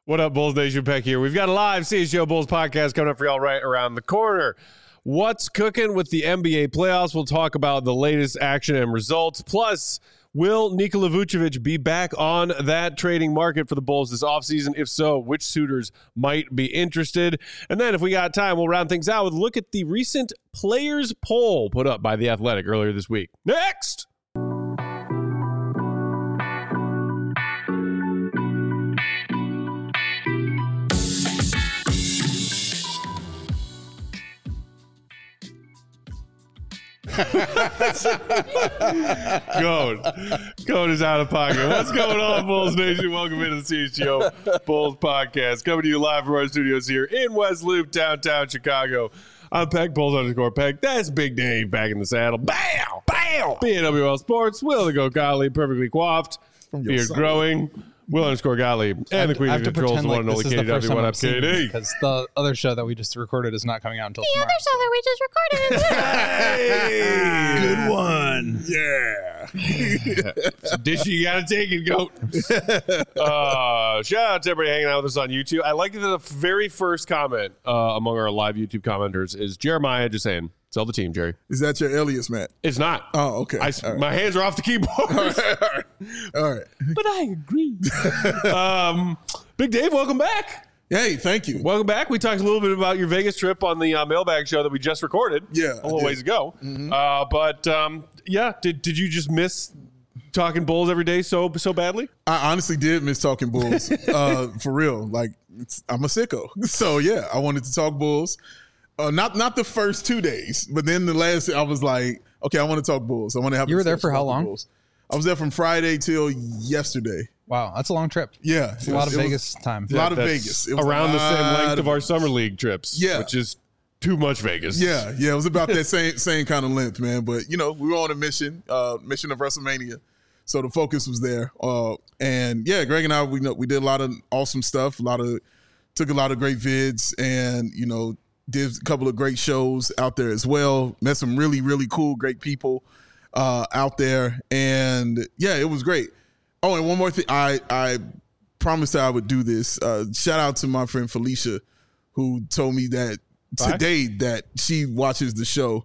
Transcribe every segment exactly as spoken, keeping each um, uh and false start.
What up, Bulls Nation? Peck here. We've got a live C H G O Bulls podcast coming up for y'all right around the corner. What's cooking with the N B A playoffs? We'll talk about the latest action and results. Plus, will Nikola Vucevic be back on that trading market for the Bulls this offseason? If so, which suitors might be interested? And then if we got time, we'll round things out with a look at the recent players poll put up by The Athletic earlier this week. Next! Goat. Goat is out of pocket. What's going on, Bulls Nation? Welcome into the C H G O Bulls podcast. Coming to you live from our studios here in West Loop, downtown Chicago. I'm Peck, Bulls underscore Peck. That's Big Dave back in the saddle. Bam! Bam! B N W L Sports. Will the Go Gottlieb, perfectly coiffed. Beard growing. Will underscore Gottlieb. And the Queen of Controls, the one and only K D. What up, K D? Because the other show that we just recorded is not coming out until the tomorrow. The other show that we just recorded is Hey! Good one. Yeah. Dish you gotta take it, Goat. Uh, shout out to everybody hanging out with us on YouTube. I like that the very first comment uh, among our live YouTube commenters is Jeremiah just saying, sell the team, Jerry. Is that your alias, Matt? It's not. Oh, okay. I, right. My hands are off the keyboard. All right. All right. All right. But I agree. um, Big Dave, welcome back. Hey, thank you. Welcome back. We talked a little bit about your Vegas trip on the uh, mailbag show that we just recorded. Yeah, a little ways ago. Mm-hmm. Uh, but um, yeah, did did you just miss talking Bulls every day so so badly? I honestly did miss talking Bulls. uh, for real. Like, it's, I'm a sicko. So yeah, I wanted to talk Bulls. Uh, not not the first two days, but then the last, I was like, okay, I want to talk Bulls. I want to have. You were there for how long? Bulls. I was there from Friday till yesterday. Wow, that's a long trip. Yeah, it's a lot of Vegas time. A lot of Vegas. It was around the same length of our summer league trips. Yeah, which is too much Vegas. Yeah, yeah, it was about that same same kind of length, man. But you know, we were on a mission, uh, mission of WrestleMania, so the focus was there. Uh, and yeah, Greg and I, we know we did a lot of awesome stuff. A lot of took a lot of great vids, and you know, did a couple of great shows out there as well. Met some really really cool, great people uh, out there, and yeah, it was great. Oh, and one more thing, I I promised I would do this. Uh, shout out to my friend Felicia, who told me that Bye. today that she watches the show,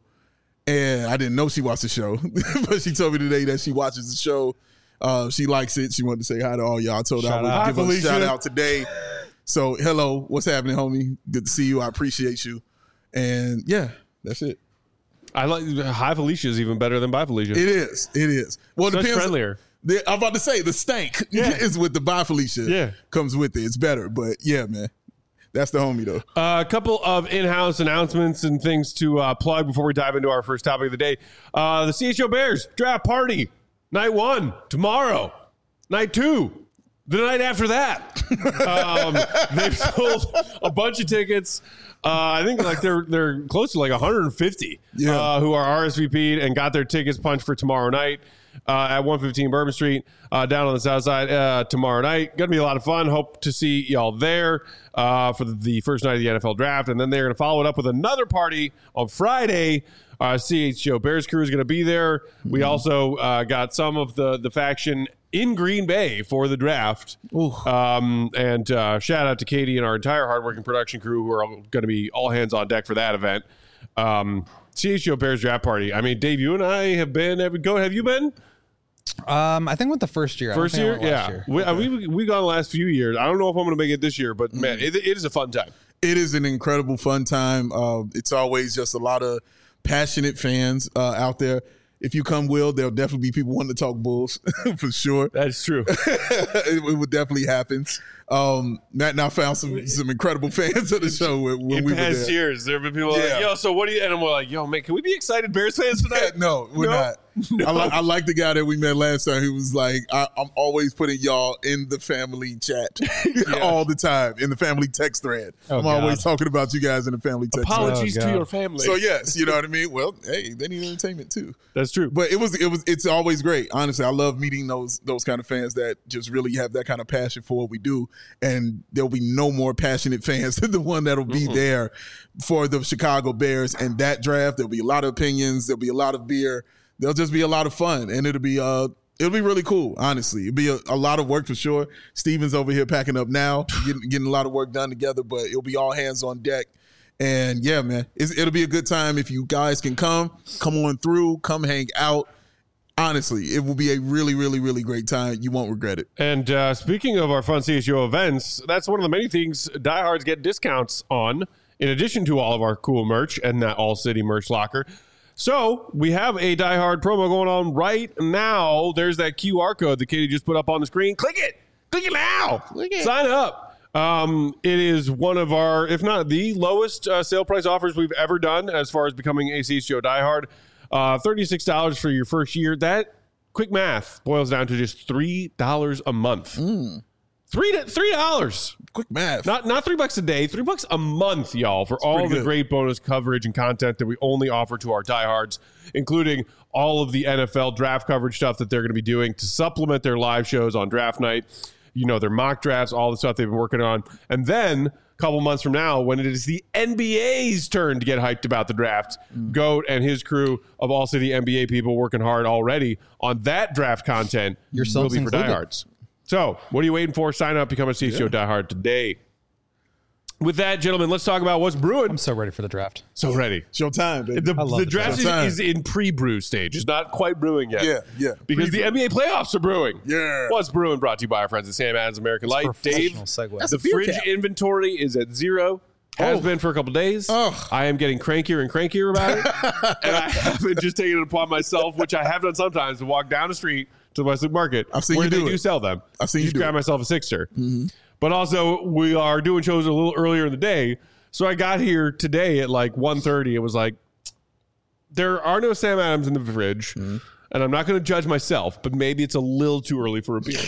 and I didn't know she watched the show, but she told me today that she watches the show. Uh, she likes it. She wanted to say hi to all y'all. I told her I would give her a shout out today. So hello, what's happening, homie? Good to see you. I appreciate you. And yeah, that's it. I like hi Felicia is even better than bye Felicia. It is. It is. Well, so it depends. Friendlier. The, I'm about to say the stank yeah. is with the bye Felicia. Yeah, comes with it. It's better, but yeah, man, that's the homie though. A uh, couple of in-house announcements and things to uh, plug before we dive into our first topic of the day. Uh, the C H O Bears draft party night one tomorrow. Night two. The night after that, um, they've sold a bunch of tickets. Uh, I think like they're they're close to like one hundred fifty yeah. uh, who are R S V P'd and got their tickets punched for tomorrow night uh, at one fifteen Bourbon Street uh, down on the south side uh, tomorrow night. Going to be a lot of fun. Hope to see y'all there uh, for the first night of the N F L draft. And then they're going to follow it up with another party on Friday. Uh, C H G O Bears crew is going to be there. Mm-hmm. We also uh, got some of the, the faction in Green Bay for the draft. Um, and uh, shout out to Katie and our entire hardworking production crew who are going to be all hands on deck for that event. Um, C H G O Bears draft party. I mean, Dave, you and I have been. Have, go, have you been? Um, I think with the first year. First year? Yeah. Year. We, okay. uh, we, we gone the last few years. I don't know if I'm going to make it this year, but man, it, it is a fun time. It is an incredible fun time. Uh, it's always just a lot of passionate fans uh, out there. If you come, Will, there'll definitely be people wanting to talk Bulls for sure. That's true. it, it would definitely happen. Um, Matt and I found some some incredible fans of the show when, when in we past were there. years. There have been people yeah. like, "Yo, so what do you?" And I'm like, "Yo, man, can we be excited Bears fans tonight?" Yeah, no, we're no? not. No. I, li- I like the guy that we met last time. He was like, I, "I'm always putting y'all in the family chat yeah. all the time in the family text thread. Oh, I'm God. always talking about you guys in the family text Apologies thread." to your family. So yes, you know what I mean. Well, hey, they need entertainment too. That's true. But it was it was it's always great. Honestly, I love meeting those those kind of fans that just really have that kind of passion for what we do. And there'll be no more passionate fans than the one that'll be mm-hmm. there for the Chicago Bears and that draft. There'll be a lot of opinions. There'll be a lot of beer. There'll just be a lot of fun, and it'll be uh It'll be really cool, honestly. It'll be a, a lot of work for sure. Steven's over here packing up now, getting, getting a lot of work done together, but it'll be all hands on deck. And yeah, man, it's, it'll be a good time if you guys can come, come on through, come hang out. Honestly, it will be a really, really, really great time. You won't regret it. And uh, speaking of our fun C S U events, that's one of the many things diehards get discounts on, in addition to all of our cool merch and that All City merch locker. So we have a Die Hard promo going on right now. There's that Q R code that Katie just put up on the screen. Click it. Click it now. Click it. Sign up. Um, it is one of our, if not the lowest uh, sale price offers we've ever done as far as becoming a C S G O Die Hard. Uh, thirty-six dollars for your first year. That, quick math, boils down to just three dollars a month. Mm. Three three dollars. Quick math. Not not three bucks a day, three bucks a month, y'all, for That's all the good. great bonus coverage and content that we only offer to our diehards, including all of the N F L draft coverage stuff that they're going to be doing to supplement their live shows on draft night. You know, their mock drafts, all the stuff they've been working on. And then a couple months from now, when it is the N B A's turn to get hyped about the draft, mm. Goat and his crew of All City N B A people working hard already on that draft content will be for diehards. So, what are you waiting for? Sign up, become a C S G O yeah. diehard today. With that, gentlemen, let's talk about what's brewing. I'm so ready for the draft. So ready. It's your time, baby. The, the, the draft is, is in pre-brew stage. It's not quite brewing yet. Yeah, yeah. Because Pre-brew. the N B A playoffs are brewing. Yeah. What's brewing? Brought to you by our friends at Sam Adams American Light. Dave, segue. the fridge cap. Inventory is at zero. Has oh. been for a couple days. Oh. I am getting crankier and crankier about it. And I haven't just taken it upon myself, which I have done sometimes, to walk down the street to the Westlake Market I've seen where you they do, do it. sell them. I've seen just you do grab it. myself a sixer. Mm-hmm. But also, we are doing shows a little earlier in the day. So I got here today at like one thirty. It was like, there are no Sam Adams in the fridge. Mm-hmm. And I'm not going to judge myself, but maybe it's a little too early for a beer.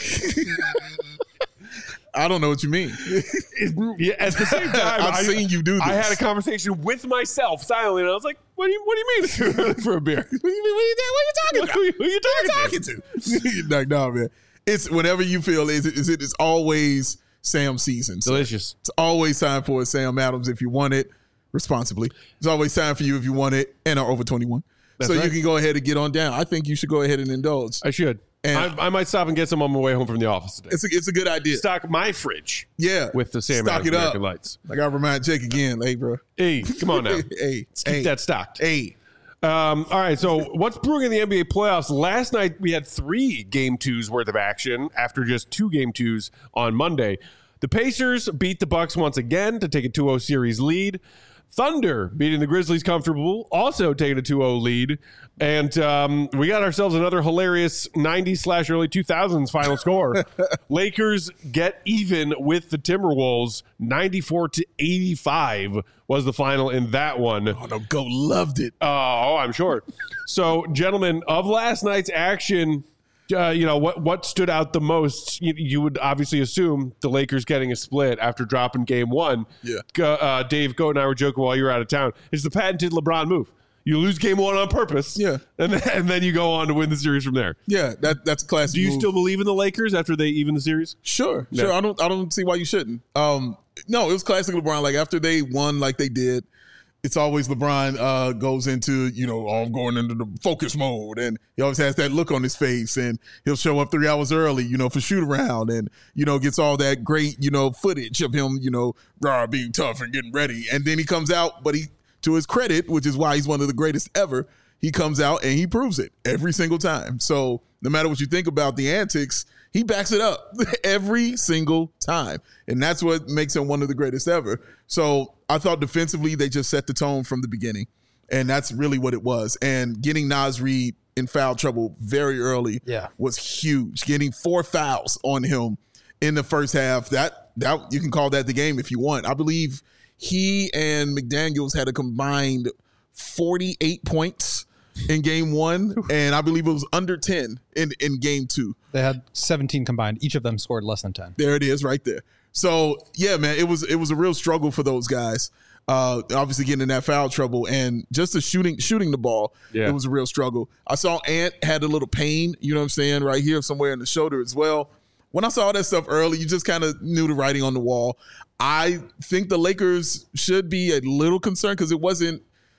I don't know what you mean. Yeah, at the same time, I've I, seen you do this. I had a conversation with myself silently, and I was like, "What do you What do you mean it's too early for a beer? What are you, what are you, what are you talking about? Who, who, who you talking, talking to?" Like, no, man. It's whenever you feel is it is it is always Sam season. So delicious. It's always time for a Sam Adams if you want it responsibly. It's always time for you if you want it and are over twenty-one. That's so right. You can go ahead and get on down. I think you should go ahead and indulge. I should. And I, I might stop and get some on my way home from the office today. It's a, it's a good idea. Stock my fridge. Yeah. With the Sam Stock Adams it up. American Lights. I got to remind Jake again. Hey, bro. Hey, come on now. hey. Let's keep hey. that stocked. Hey. Um, all right, so what's brewing in the N B A playoffs? Last night we had three game twos worth of action after just two game twos on Monday. The Pacers beat the Bucks once again to take a two oh series lead. Thunder beating the Grizzlies comfortable, also taking a two oh lead. And um, we got ourselves another hilarious nineties slash early two thousands final score. Lakers get even with the Timberwolves. ninety-four to eighty-five was the final in that one. Oh, no, Go loved it. Oh, I'm sure. So, gentlemen, of last night's action, uh, you know, what what stood out the most? You, you would obviously assume the Lakers getting a split after dropping game one. Yeah. Uh, Dave, Goat, and I were joking while you were out of town. It's the patented LeBron move. You lose game one on purpose. Yeah. And then, and then you go on to win the series from there. Yeah, that that's a classic. Do you move. still believe in the Lakers after they even the series? Sure, No. sure. I don't I don't see why you shouldn't. Um, no, it was classic LeBron. Like after they won, like they did, it's always LeBron uh, goes into, you know, oh, I'm going into the focus mode, and he always has that look on his face, and he'll show up three hours early, you know, for shoot around, and you know gets all that great, you know, footage of him, you know, rah, being tough and getting ready, and then he comes out, but he, to his credit, which is why he's one of the greatest ever, he comes out and he proves it every single time. So no matter what you think about the antics, he backs it up every single time. And that's what makes him one of the greatest ever. So I thought defensively, they just set the tone from the beginning. And that's really what it was. And getting Naz Reid in foul trouble very early yeah. was huge. Getting four fouls on him in the first half, that that you can call that the game if you want. I believe he and McDaniels had a combined forty-eight points in game one, and I believe it was under ten in, in game two. They had seventeen combined. Each of them scored less than ten. There it is right there. So, yeah, man, it was it was a real struggle for those guys. Uh, obviously getting in that foul trouble and just the shooting shooting the ball, yeah. It was a real struggle. I saw Ant had a little pain, you know what I'm saying, right here somewhere in the shoulder as well. When I saw all that stuff early, you just kind of knew the writing on the wall. I think the Lakers should be a little concerned because it wasn't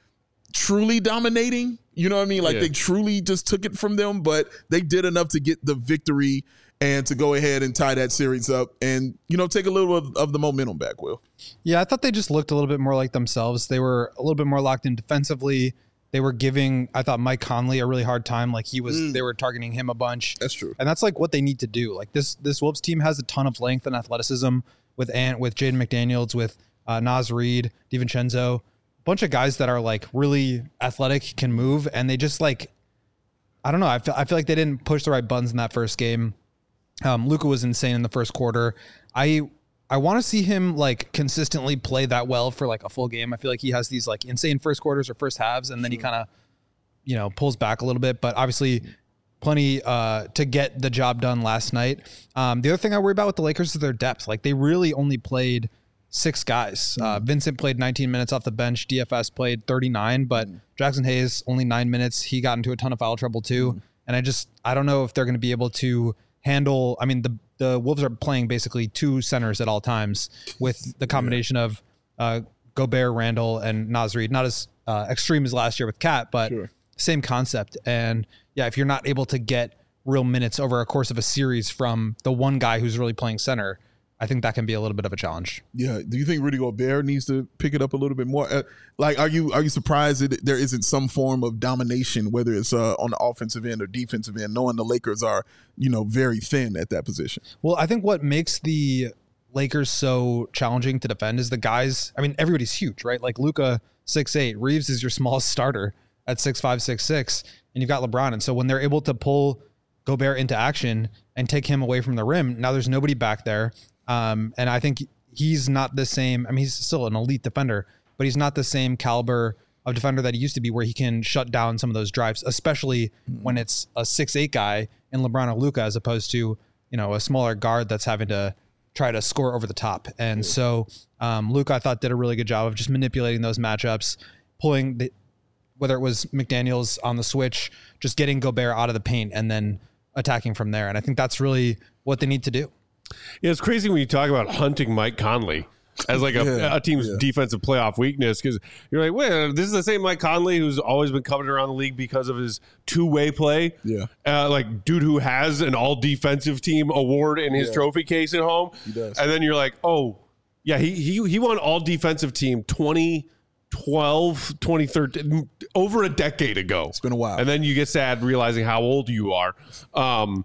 truly dominating. You know what I mean? Like Yeah. they truly just took it from them, but they did enough to get the victory and to go ahead and tie that series up and, you know, take a little of, of the momentum back, Will. Yeah, I thought they just looked a little bit more like themselves. They were a little bit more locked in defensively. They were giving, I thought, Mike Conley a really hard time. Like he was, mm. they were targeting him a bunch. That's true. And that's like what they need to do. Like this, this Wolves team has a ton of length and athleticism with Ant, with Jaden McDaniels, with uh, Naz Reid, DiVincenzo, a bunch of guys that are like really athletic, can move. And they just like, I don't know. I feel, I feel like they didn't push the right buttons in that first game. Um, Luka was insane in the first quarter. I I want to see him like consistently play that well for like a full game. I feel like he has these like insane first quarters or first halves, and then he kind of, you know, pulls back a little bit. But obviously, plenty uh, to get the job done last night. Um, the other thing I worry about with the Lakers is their depth. Like they really only played six guys. Uh, Vincent played nineteen minutes off the bench. D F S played thirty-nine, but Jackson Hayes only nine minutes. He got into a ton of foul trouble too. And I just I don't know if they're going to be able to handle. I mean, the the Wolves are playing basically two centers at all times with the combination yeah. of uh, Gobert, Randall, and Naz Reid. Not as uh, extreme as last year with Cat, but sure. same concept. And yeah, if you're not able to get real minutes over a course of a series from the one guy who's really playing center, I think that can be a little bit of a challenge. Yeah. Do you think Rudy Gobert needs to pick it up a little bit more? Uh, like, are you are you surprised that there isn't some form of domination, whether it's uh, on the offensive end or defensive end, knowing the Lakers are, you know, very thin at that position? Well, I think what makes the Lakers so challenging to defend is the guys. I mean, everybody's huge, right? Like Luka, six eight. Reeves is your smallest starter at six five, six six. And you've got LeBron. And so when they're able to pull Gobert into action and take him away from the rim, now there's nobody back there. Um, and I think he's not the same. I mean, he's still an elite defender, but he's not the same caliber of defender that he used to be, where he can shut down some of those drives, especially mm-hmm. when it's a six eight guy in LeBron or Luka, as opposed to, you know, a smaller guard that's having to try to score over the top. And yeah. so um, Luka, I thought, did a really good job of just manipulating those matchups, pulling the, whether it was McDaniels on the switch, just getting Gobert out of the paint and then attacking from there. And I think that's really what they need to do. Yeah, it's crazy when you talk about hunting Mike Conley as like a, yeah, a team's yeah. defensive playoff weakness, because you're like, well, this is the same Mike Conley who's always been coveted around the league because of his two-way play. Yeah, uh, like dude who has an all-defensive team award in his yeah. trophy case at home. He does. And then you're like, oh, yeah, he he he won all-defensive team twenty twelve, twenty thirteen, over a decade ago. It's been a while. And then you get sad realizing how old you are. Um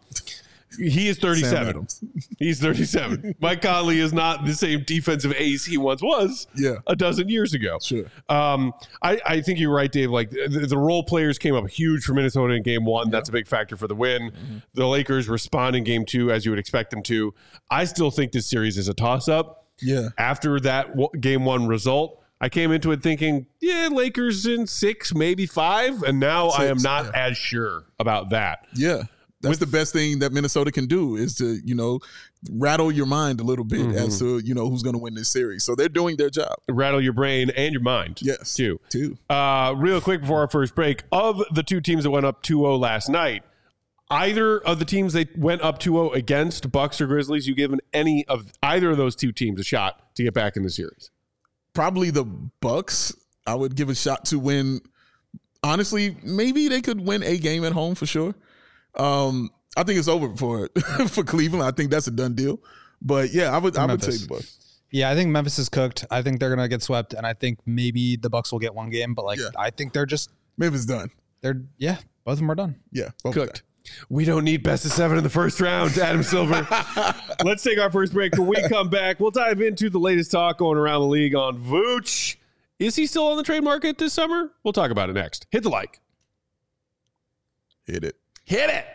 He is thirty-seven. He's thirty-seven. Mike Conley is not the same defensive ace he once was yeah. a dozen years ago. Sure. Um, I, I think you're right, Dave. Like the, the role players came up huge for Minnesota in game one. Yeah. That's a big factor for the win. Mm-hmm. The Lakers respond in game two as you would expect them to. I still think this series is a toss-up. Yeah. After that w- game one result, I came into it thinking, yeah, Lakers in six, maybe five. And now six, I am not yeah. as sure about that. Yeah. That's the best thing that Minnesota can do, is to, you know, rattle your mind a little bit mm-hmm. as to, you know, who's going to win this series. So they're doing their job. Rattle your brain and your mind. Yes. Too. Too. Uh, real quick before our first break, of the two teams that went up two oh last night, either of the teams they went up two oh against, Bucks or Grizzlies, you given any of either of those two teams a shot to get back in the series? Probably the Bucks. I would give a shot to win. Honestly, maybe they could win a game at home for sure. Um, I think it's over for for Cleveland. I think that's a done deal. But yeah, I would I would take the Bucks. Yeah, I think Memphis is cooked. I think they're gonna get swept, and I think maybe the Bucks will get one game. But like, yeah. I think they're just Memphis done. They're yeah, both of them are done. Yeah, cooked. We don't need best of seven in the first round, Adam Silver. Let's take our first break. When we come back, we'll dive into the latest talk going around the league on Vooch. Is he still on the trade market this summer? We'll talk about it next. Hit the like. Hit it. Hit it.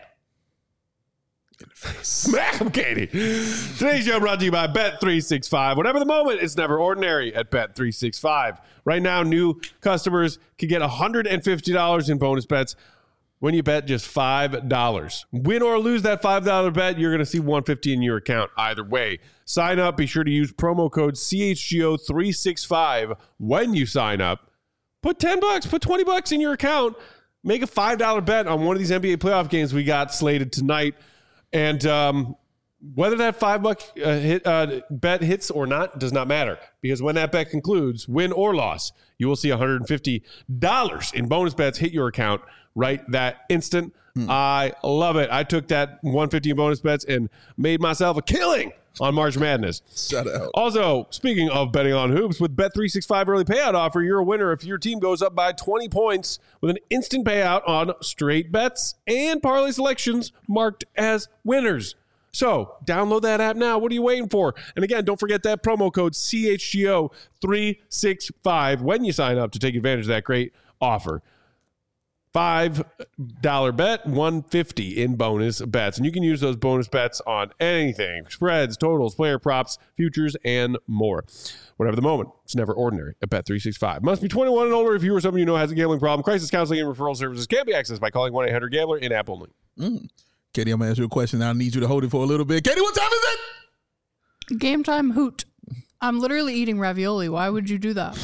In the face. Smack him, Katie. Today's show brought to you by Bet three sixty-five. Whatever the moment, it's never ordinary at Bet three sixty-five. Right now, new customers can get one hundred fifty dollars in bonus bets when you bet just five dollars. Win or lose that five dollar bet, you're going to see one hundred fifty dollars in your account either way. Sign up. Be sure to use promo code C H G O three sixty-five when you sign up. Put ten bucks, put twenty bucks in your account. Make a five dollar bet on one of these N B A playoff games we got slated tonight. And um, Whether that five buck uh, hit, uh, bet hits or not does not matter, because when that bet concludes, win or loss, you will see one hundred fifty dollars in bonus bets hit your account right that instant. Hmm. I love it. I took that one hundred fifty in bonus bets and made myself a killing on March Madness. Shut up. Also, speaking of betting on hoops, with Bet three sixty-five early payout offer, you're a winner if your team goes up by twenty points with an instant payout on straight bets and parlay selections marked as winners. So download that app now. What are you waiting for? And again, don't forget that promo code C H G O three sixty-five when you sign up to take advantage of that great offer. five dollar bet, one hundred fifty in bonus bets. And you can use those bonus bets on anything: spreads, totals, player props, futures, and more. Whatever the moment, it's never ordinary at Bet three sixty-five. Must be twenty-one and older if you or someone you know has a gambling problem. Crisis counseling and referral services can be accessed by calling one eight hundred gambler in app only. Mm. Katie, I'm going to ask you a question. I need you to hold it for a little bit. Katie, what time is it? Game time hoot. I'm literally eating ravioli. Why would you do that?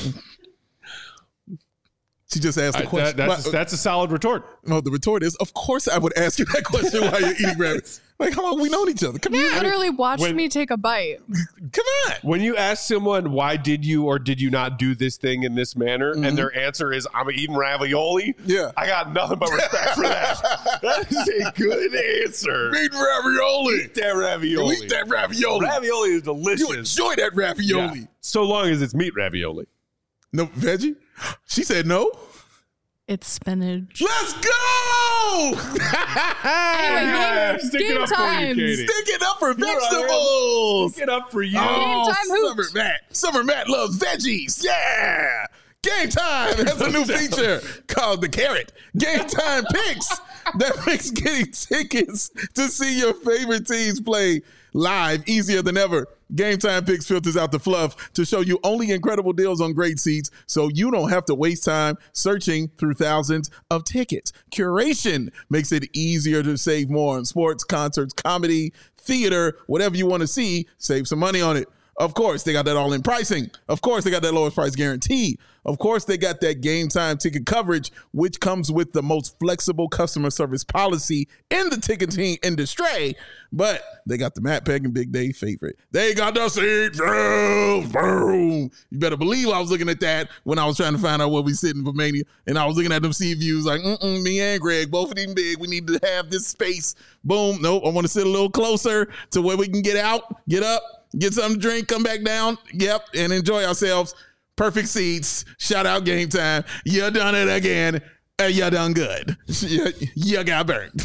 She just asked the I, question. that, that's, a, that's a solid retort. No, the retort is, of course I would ask you that question while you're eating rabbits. Like, how long we known each other? Come You here. literally watched when- me take a bite. Come on. When you ask someone, why did you or did you not do this thing in this manner, Mm-hmm. and their answer is, I'm eating ravioli, Yeah. I got nothing but respect for that. That is a good answer. Eat ravioli. Eat that ravioli. Eat that ravioli. Ravioli is delicious. You enjoy that ravioli. Yeah. So long as it's meat ravioli. No veggie? She said no. It's spinach. Let's go! Anyway, Yeah, game, stick it game up for you, time. Katie. Stick it up for You're right. vegetables. Stick it up for you. Oh, Game time hoot. Summer Matt. Summer Matt loves veggies. Yeah. Game Time has a new feature called the Carrot. Game Time Picks that makes getting tickets to see your favorite teams play live easier than ever. Game Time Picks filters out the fluff to show you only incredible deals on great seats, so you don't have to waste time searching through thousands of tickets. Curation makes it easier to save more on sports, concerts, comedy, theater, whatever you want to see. Save some money on it. Of course, they got that all-in pricing. Of course, they got that lowest price guarantee. Of course, they got that Game Time ticket coverage, which comes with the most flexible customer service policy in the ticketing industry. But they got the Matt Peck and Big Dave favorite. They got the seat views. Boom. You better believe I was looking at that when I was trying to find out where we sitting for Mania. And I was looking at them seat views like, mm-mm, me and Greg, both of them big. We need to have this space. Boom. Nope. I want to sit a little closer to where we can get out, get up, get something to drink, come back down. Yep. And enjoy ourselves. Perfect seats. Shout out Game Time. You done it again. And you done good. You, you got burned.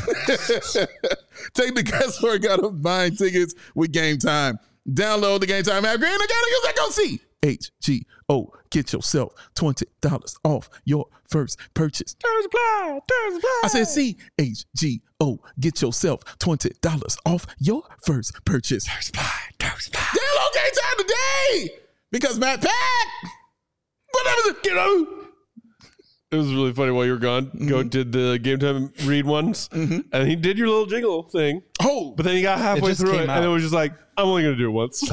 Take the guesswork out of buying tickets with Game Time. Download the Game Time app. Green, I gotta use that. Go see. H G O. Get yourself twenty dollars off your first purchase. Terms apply. Terms apply. I said C H G O. Get yourself twenty dollars off your first purchase. Terms apply. Terms apply. Download Game Time today. Because Matt Pack. Whatever it, you know. It was really funny while you were gone. Mm-hmm. Go did the Game Time read ones, mm-hmm. and he did your little jingle thing. Oh, but then he got halfway it through it, out. and it was just like, I'm only going to do it once.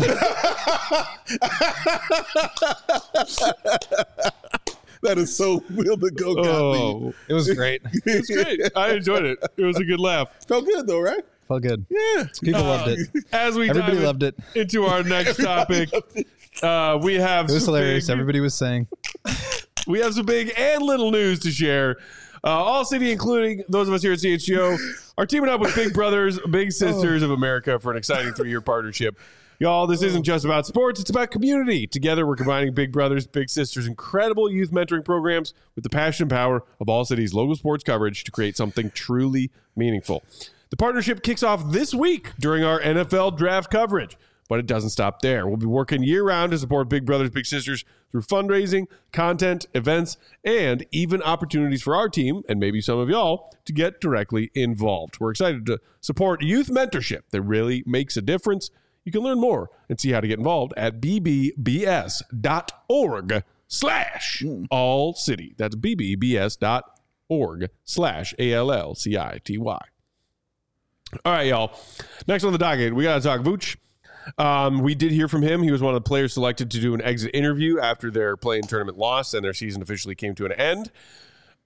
That is so real to go. Oh, It was great. it was great. I enjoyed it. It was a good laugh. Felt good though, right? Felt good. Yeah. People loved it. As we Everybody dive loved it. into our next topic, uh, we have It was some hilarious. big- Everybody was saying. We have some big and little news to share. Uh, all city, including those of us here at C H G O, are teaming up with Big Brothers, Big Sisters of America for an exciting three-year partnership. Y'all, this isn't just about sports, it's about community. Together, we're combining Big Brothers, Big Sisters' incredible youth mentoring programs with the passion and power of All City's local sports coverage to create something truly meaningful. The partnership kicks off this week during our N F L draft coverage. But it doesn't stop there. We'll be working year-round to support Big Brothers Big Sisters through fundraising, content, events, and even opportunities for our team, and maybe some of y'all, to get directly involved. We're excited to support youth mentorship that really makes a difference. You can learn more and see how to get involved at bbbs.org slash all city. That's bbbs.org slash A-L-L-C-I-T-Y. All right, y'all. Next on the docket, we got to talk Vooch. Um, we did hear from him. He was one of the players selected to do an exit interview after their play-in tournament loss and their season officially came to an end.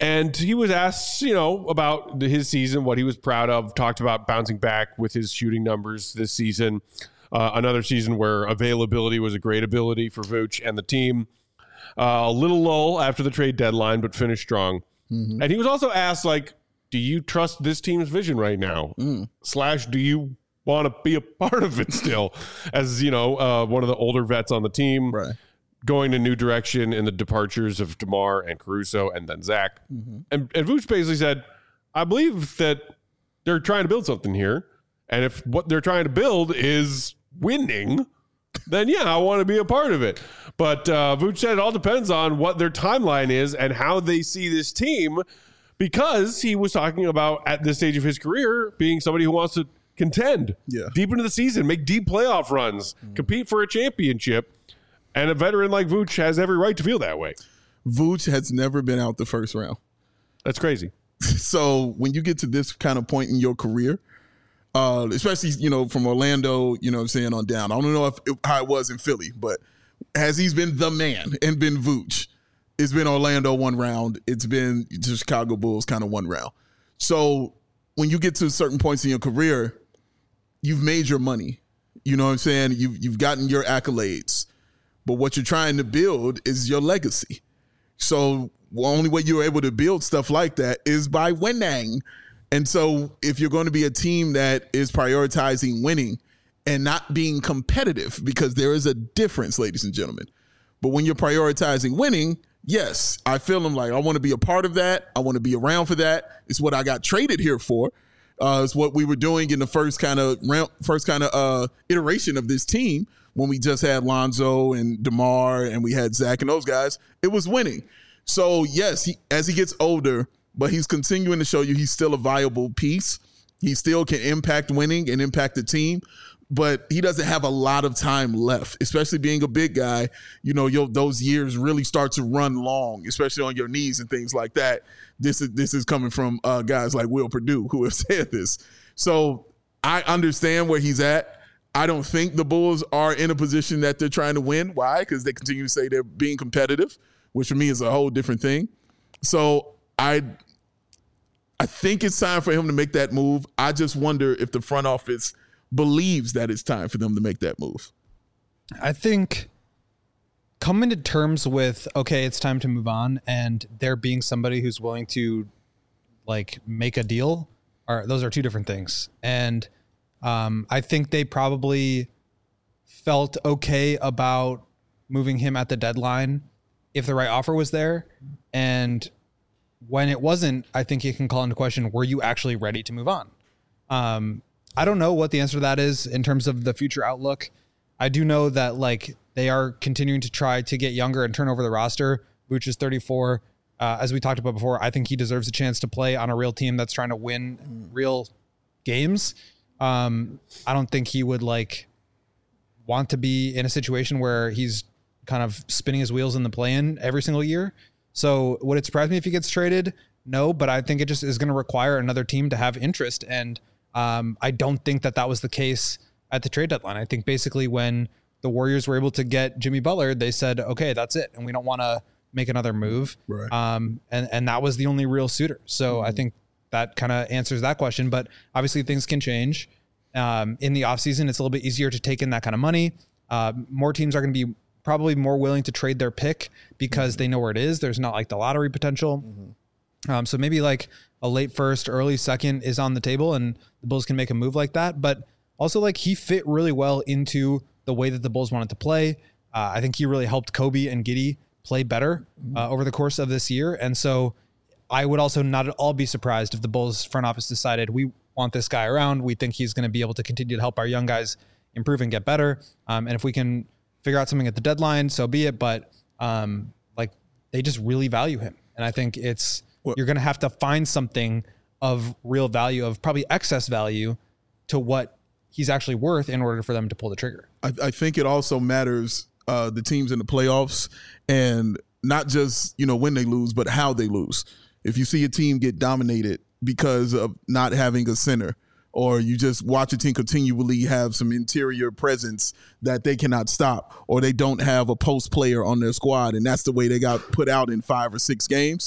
And he was asked, you know, about his season, what he was proud of, talked about bouncing back with his shooting numbers this season. Uh, another season where availability was a great ability for Vooch and the team. Uh, a little lull after the trade deadline, but finished strong. Mm-hmm. And he was also asked, like, do you trust this team's vision right now? Mm. Slash, do you want to be a part of it still? As, you know, uh, one of the older vets on the team. Right. Going a new direction in the departures of DeMar and Caruso and then Zach. Mm-hmm. And, and Vooch basically said, I believe that they're trying to build something here. And if what they're trying to build is winning, then yeah, I want to be a part of it. But uh, Vooch said it all depends on what their timeline is and how they see this team, because he was talking about at this stage of his career being somebody who wants to contend yeah. deep into the season, make deep playoff runs, mm-hmm. compete for a championship. And a veteran like Vooch has every right to feel that way. Vooch has never been out the first round. That's crazy. So when you get to this kind of point in your career, uh, especially, you know, from Orlando, you know what I'm saying, on down. I don't know if, if how it was in Philly, but as he's been the man and been Vooch, it's been Orlando one round. It's been the Chicago Bulls kind of one round. So when you get to certain points in your career, you've made your money. You know what I'm saying? You've, you've gotten your accolades. But what you're trying to build is your legacy. So the only way you're able to build stuff like that is by winning. And so if you're going to be a team that is prioritizing winning and not being competitive, because there is a difference, ladies and gentlemen. But when you're prioritizing winning, yes, I feel them like I want to be a part of that. I want to be around for that. It's what I got traded here for. Uh, it's what we were doing in the first kind of first kind of uh, iteration of this team. When we just had Lonzo and DeMar and we had Zach and those guys, it was winning. So, yes, he, as he gets older, but he's continuing to show you he's still a viable piece. He still can impact winning and impact the team, but he doesn't have a lot of time left, especially being a big guy. You know, you'll, those years really start to run long, especially on your knees and things like that. This is, this is coming from uh, guys like Will Perdue who have said this. So I understand where he's at. I don't think the Bulls are in a position that they're trying to win. Why? Because they continue to say they're being competitive, which for me is a whole different thing. So I I think it's time for him to make that move. I just wonder if the front office believes that it's time for them to make that move. I think coming to terms with, okay, it's time to move on, and there being somebody who's willing to like make a deal, are those are two different things. And Um, I think they probably felt okay about moving him at the deadline if the right offer was there. And when it wasn't, I think you can call into question, were you actually ready to move on? Um, I don't know what the answer to that is in terms of the future outlook. I do know that like they are continuing to try to get younger and turn over the roster. Vooch is thirty-four. Uh, as we talked about before, I think he deserves a chance to play on a real team that's trying to win real games. Um, I don't think he would like want to be in a situation where he's kind of spinning his wheels in the play-in every single year. So would it surprise me if he gets traded? No, but I think it just is going to require another team to have interest. And um, I don't think that that was the case at the trade deadline. I think basically when the Warriors were able to get Jimmy Butler, they said, okay, that's it. And we don't want to make another move. Right. Um, and, and that was the only real suitor. So mm-hmm. I think that kind of answers that question, but obviously things can change. Um, in the offseason, it's a little bit easier to take in that kind of money. Uh, more teams are going to be probably more willing to trade their pick because mm-hmm. they know where it is. There's not like the lottery potential. Mm-hmm. Um, so maybe like a late first, early second is on the table and the Bulls can make a move like that. But also like he fit really well into the way that the Bulls wanted to play. Uh, I think he really helped Kobe and Giddey play better uh, over the course of this year. And so I would also not at all be surprised if the Bulls front office decided we want this guy around. We think he's going to be able to continue to help our young guys improve and get better. Um, and if we can figure out something at the deadline, so be it. But um, like they just really value him. And I think it's, well, you're going to have to find something of real value, of probably excess value to what he's actually worth in order for them to pull the trigger. I, I think it also matters uh, the teams in the playoffs, and not just, you know, when they lose, but how they lose. If you see a team get dominated because of not having a center, or you just watch a team continually have some interior presence that they cannot stop, or they don't have a post player on their squad, and that's the way they got put out in five or six games,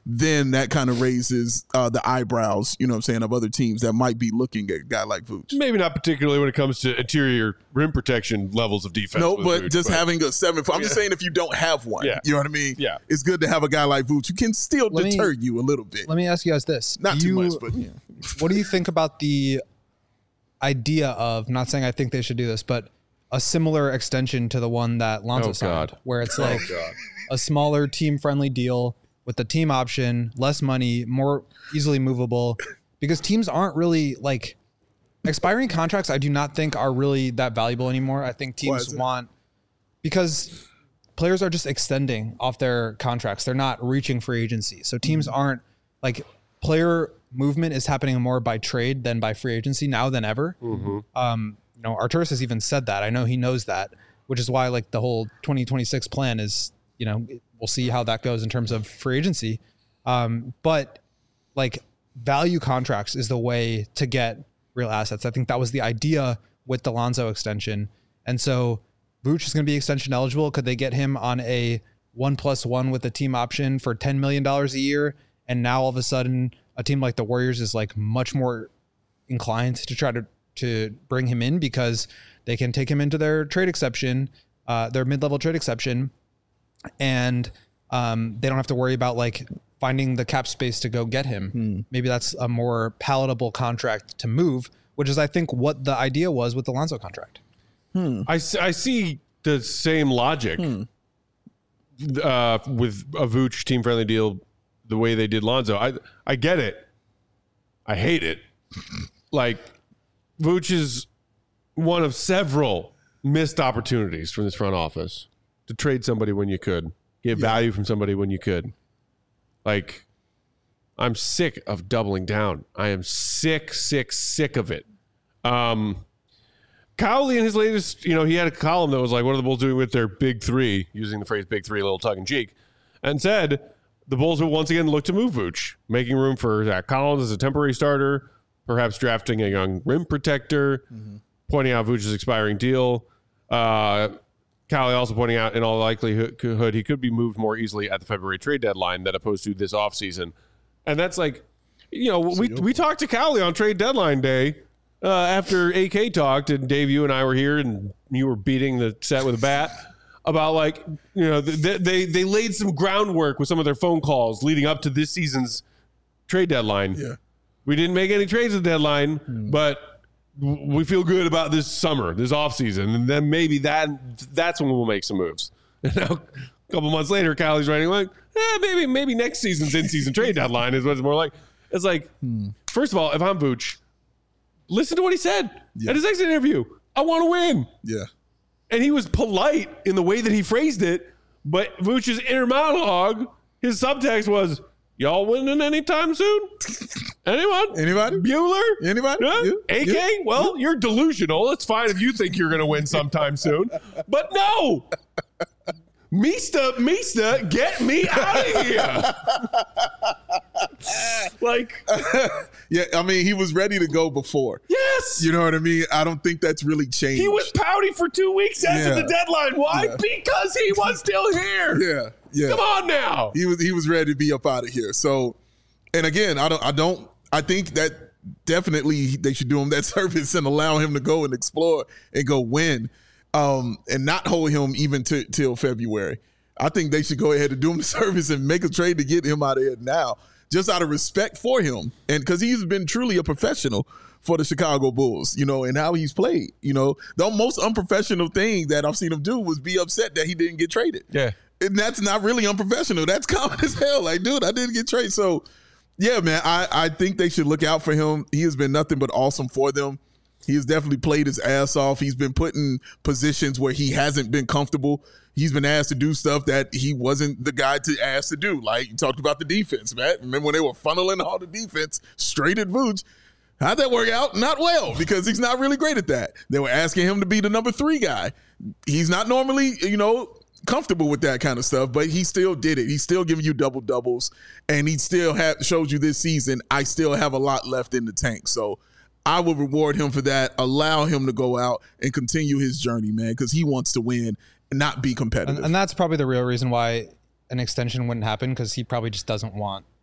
then that kind of raises uh, the eyebrows, you know what I'm saying, of other teams that might be looking at a guy like Vooch. Maybe not particularly when it comes to interior rim protection levels of defense. No, with but Vooch, just but having a seven. I'm just saying if you don't have one, Yeah. you know what I mean? Yeah. It's good to have a guy like Vooch who can still Let me- deter you a little bit. Let me ask you guys this. Not Do too you- much, but yeah. What do you think about the idea of, not saying I think they should do this, but a similar extension to the one that Lonzo Oh, signed, God. where it's like a smaller team-friendly deal with the team option, less money, more easily movable, because teams aren't really like expiring contracts. I do not think are really that valuable anymore. I think Why is teams that? want, because players are just extending off their contracts. They're not reaching free agency. So teams aren't like player movement is happening more by trade than by free agency now than ever. Um, you know, Arturis has even said that. I know he knows that, which is why like the whole twenty twenty-six plan is, you know, we'll see how that goes in terms of free agency. Um, but like value contracts is the way to get real assets. I think that was the idea with the Lonzo extension. And so Vooch is going to be extension eligible. Could they get him on a one plus one with a team option for ten million dollars a year? And now all of a sudden a team like the Warriors is like much more inclined to try to, to bring him in because they can take him into their trade exception, uh, their mid-level trade exception. And um, they don't have to worry about like finding the cap space to go get him. Hmm. Maybe that's a more palatable contract to move, which is I think what the idea was with the Lonzo contract. I, s- I see the same logic Hmm. uh, with a Vooch team friendly deal the way they did Lonzo. I I get it. I hate it. Like Vooch is one of several missed opportunities from this front office to trade somebody when you could, get value from somebody when you could. Like, I'm sick of doubling down. I am sick, sick, sick of it. Um, Cowley in his latest, you know, he had a column that was like, what are the Bulls doing with their big three, using the phrase big three, a little tongue in cheek, and said the Bulls will once again look to move Vooch, making room for Zach Collins as a temporary starter, perhaps drafting a young rim protector, pointing out Vooch's expiring deal. Uh, Cowley also pointing out in all likelihood he could be moved more easily at the February trade deadline than opposed to this offseason. And that's like, you know, we, we talked to Cowley on trade deadline day uh, after A K talked, and Dave, you and I were here, and you were beating the set with a bat about like, you know, they, they, they laid some groundwork with some of their phone calls leading up to this season's trade deadline. Yeah. We didn't make any trades at the deadline, but we feel good about this summer, this offseason, and then maybe that that's when we'll make some moves. And now, a couple months later, Cowley's writing like, eh, maybe maybe next season's in-season trade deadline is what it's more like. It's like, first of all, if I'm Vooch, listen to what he said Yeah. at his exit interview. I want to win. Yeah. And he was polite in the way that he phrased it, but Vooch's inner monologue, his subtext was, y'all winning anytime soon? Anyone? Anybody? Bueller? Anybody? Yeah? Yeah. A K? Yeah. Well, you're delusional. It's fine if you think you're going to win sometime soon. But no! Mista, Mista, get me out of here! Like, Yeah, I mean, he was ready to go before. yes! You know what I mean? I don't think that's really changed. He was pouty for two weeks after Yeah. the deadline. Why? Yeah. Because he was still here. Yeah, yeah. Come on now. He was he was ready to be up out of here. So, and again, I don't I don't I think that definitely they should do him that service and allow him to go and explore and go win, um, and not hold him even to, till February. I think they should go ahead and do him the service and make a trade to get him out of here now, just out of respect for him, and because he's been truly a professional for the Chicago Bulls, you know, and how he's played. You know, the most unprofessional thing that I've seen him do was be upset that he didn't get traded. Yeah. And that's not really unprofessional. That's common as hell. Like, dude, I didn't get traded. So, yeah, man, I, I think they should look out for him. He has been nothing but awesome for them. He has definitely played his ass off. He's been put in positions where he hasn't been comfortable. He's been asked to do stuff that he wasn't the guy to ask to do. Like, you talked about the defense, man. Remember when they were funneling all the defense straight at Vooch? How'd that work out? Not well, because he's not really great at that. They were asking him to be the number three guy. He's not normally, you know, comfortable with that kind of stuff, but he still did it. He's still giving you double doubles, and he still have showed you this season, I still have a lot left in the tank. So I will reward him for that. Allow him to go out and continue his journey, man, because he wants to win and not be competitive. And, and that's probably the real reason why an extension wouldn't happen, because he probably just doesn't want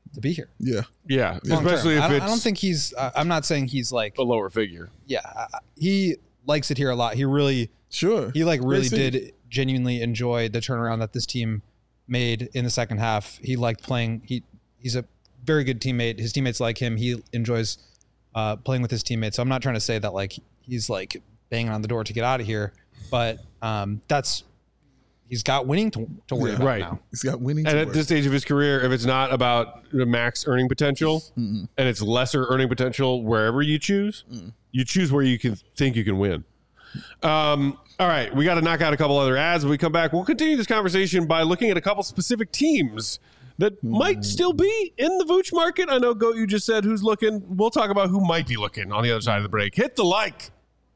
to be here. Yeah. Yeah, Long especially term. if I don't, it's I don't think he's. Uh, I'm not saying he's like. a lower figure. Yeah, uh, he likes it here a lot. He really, Sure. he like really Great city. did genuinely enjoy the turnaround that this team made in the second half. He liked playing. He he's a very good teammate. His teammates like him. He enjoys uh, playing with his teammates. So I'm not trying to say that like he's like banging on the door to get out of here, but um, that's he's got winning to, to worry Yeah. about Right. now. He's got winning. And to at work. this stage of his career, if it's not about the max earning potential and it's lesser earning potential wherever you choose, you choose where you can think you can win. Um, all right, we got to knock out a couple other ads. When we come back, we'll continue this conversation by looking at a couple specific teams that might still be in the Vooch market. I know, Goat, you just said who's looking. We'll talk about who might be looking on the other side of the break. Hit the like.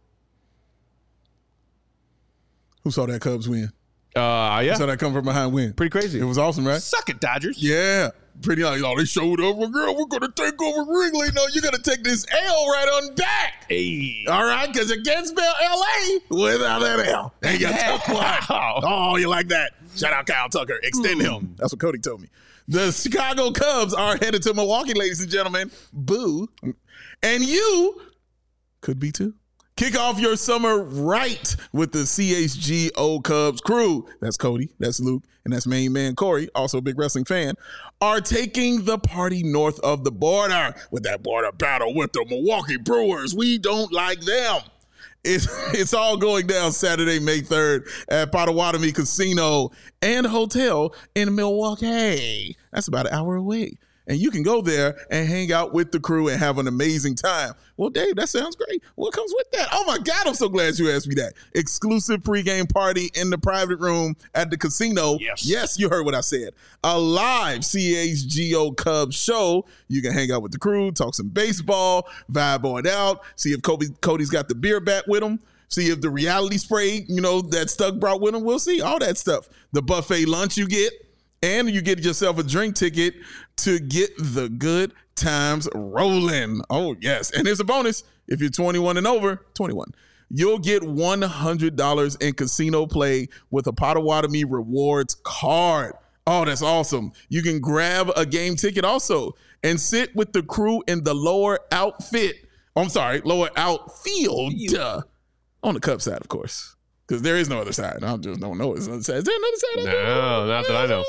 Who saw that Cubs win? Uh, yeah, Saw that come from behind win. pretty crazy. It was awesome, right? Suck it, Dodgers. Yeah. Pretty like, oh, they showed up. Well, girl, we're going to take over Wrigley. No, you're going to take this L right on back. Hey. All right, because you can't spell L A without that L. And you took one. Oh, you like that? Shout out Kyle Tucker. Extend him. That's what Cody told me. The Chicago Cubs are headed to Milwaukee, ladies and gentlemen. Boo. And you could be too. Kick off your summer right with the C H G O Cubs crew. That's Cody, that's Luke, and that's main man Corey, also a big wrestling fan, are taking the party north of the border with that border battle with the Milwaukee Brewers. We don't like them. It's, it's all going down Saturday, May third at Potawatomi Casino and Hotel in Milwaukee. That's about an hour away. And you can go there and hang out with the crew and have an amazing time. Well, Dave, that sounds great. What comes with that? Oh, my God, I'm so glad you asked me that. Exclusive pregame party in the private room at the casino. Yes. Yes, you heard what I said. A live C H G O Cubs show. You can hang out with the crew, talk some baseball, vibe on out, see if Kobe, Cody's got the beer bat with him. See if the reality spray, you know, that Stuck brought with him. We'll see. All that stuff. The buffet lunch you get. And you get yourself a drink ticket to get the good times rolling. Oh, yes. And here's a bonus. If you're twenty-one and over, twenty-one, you'll get one hundred dollars in casino play with a Potawatomi Rewards card. Oh, that's awesome. You can grab a game ticket also and sit with the crew in the lower outfit. Oh, I'm sorry, lower outfield. Duh. On the Cubs side, of course. Because there is no other side. I just don't know. Is there another side? No, not that I know.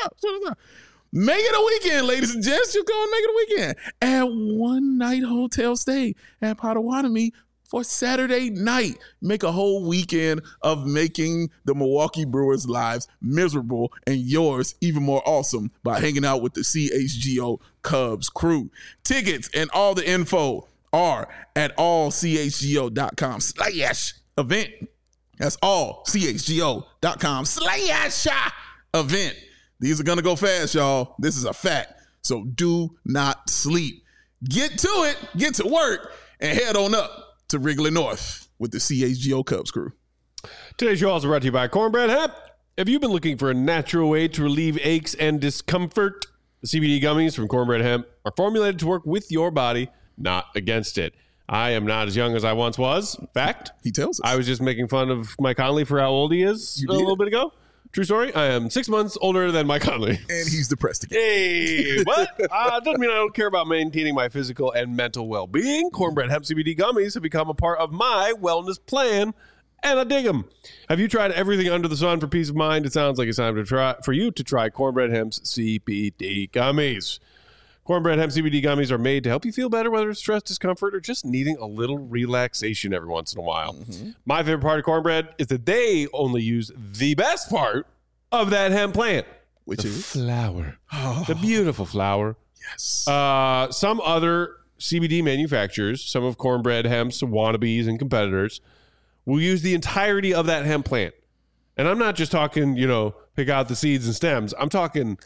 Make it a weekend, ladies and gents. Just go and make it a weekend. At one night hotel stay at Potawatomi for Saturday night. Make a whole weekend of making the Milwaukee Brewers' lives miserable and yours even more awesome by hanging out with the C H G O Cubs crew. Tickets and all the info are at all c h g o dot com slash event. That's all c h g o dot com slash event. These are going to go fast, y'all. This is a fact. So do not sleep. Get to it, get to work, and head on up to Wrigley North with the C H G O Cubs crew. Today's show also brought to you by Cornbread Hemp. Have you been looking for a natural way to relieve aches and discomfort? The C B D gummies from Cornbread Hemp are formulated to work with your body, not against it. I am not as young as I once was. Fact. He tells us. I was just making fun of Mike Conley for how old he is You a did. little bit ago. True story. I am six months older than Mike Conley. And he's depressed again. Hey, what? uh, doesn't mean I don't care about maintaining my physical and mental well-being. Cornbread Hemp C B D gummies have become a part of my wellness plan, and I dig them. Have you tried everything under the sun for peace of mind? It sounds like it's time to try for you to try Cornbread Hemp's C B D gummies. Cornbread Hemp C B D gummies are made to help you feel better, whether it's stress, discomfort, or just needing a little relaxation every once in a while. Mm-hmm. My favorite part of Cornbread is that they only use the best part of that hemp plant, Which the is? flower. The beautiful flower. Yes. Uh, some other C B D manufacturers, some of Cornbread Hemp's wannabes and competitors, will use the entirety of that hemp plant. And I'm not just talking, you know, pick out the seeds and stems. I'm talking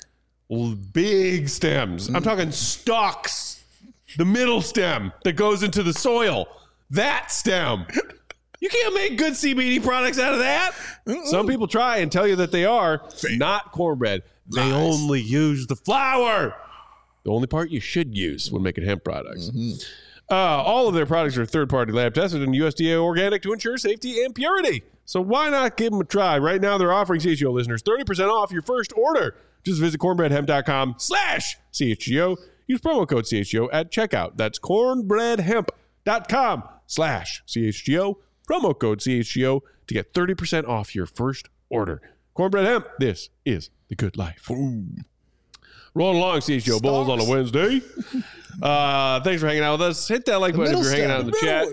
big stems. I'm talking stalks, the middle stem that goes into the soil. That stem. You can't make good C B D products out of that. Mm-mm. Some people try and tell you that they are. Fake. Not Cornbread. They Lies. only use the flower. The only part you should use when making hemp products. Mm-hmm. Uh, all of their products are third-party lab tested and U S D A organic to ensure safety and purity. So why not give them a try? Right now, they're offering C H G O listeners thirty percent off your first order. Just visit cornbreadhemp.com slash CHGO. Use promo code C H G O at checkout. That's cornbreadhemp.com slash CHGO. Promo code C H G O to get thirty percent off your first order. Cornbread Hemp, this is the good life. Ooh. Rolling along, C H G O Bulls on a Wednesday. Uh, thanks for hanging out with us. Hit that like button if you're hanging out in the chat.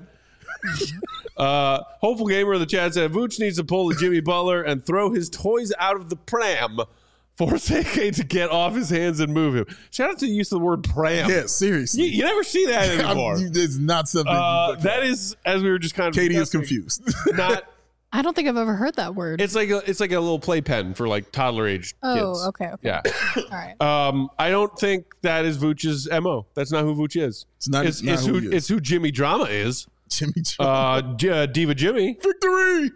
uh, Hopeful Gamer in the chat said, Vooch needs to pull the Jimmy Butler and throw his toys out of the pram. Force A K to get off his hands and move him. Shout out to the use of the word pram. Yeah, seriously. You, you never see that anymore. It's not something. Uh, that is, as we were just kind of Katie is confused. Not. I don't think I've ever heard that word. It's like a, it's like a little playpen for like toddler age oh, kids. okay, okay. Yeah. All right. Um, I don't think that is Vooch's M O. That's not who Vooch is. It's not. It's, not it's who, who, he is. it's who Jimmy Drama is. Jimmy Drama. Uh, J- uh, Diva Jimmy. Victory.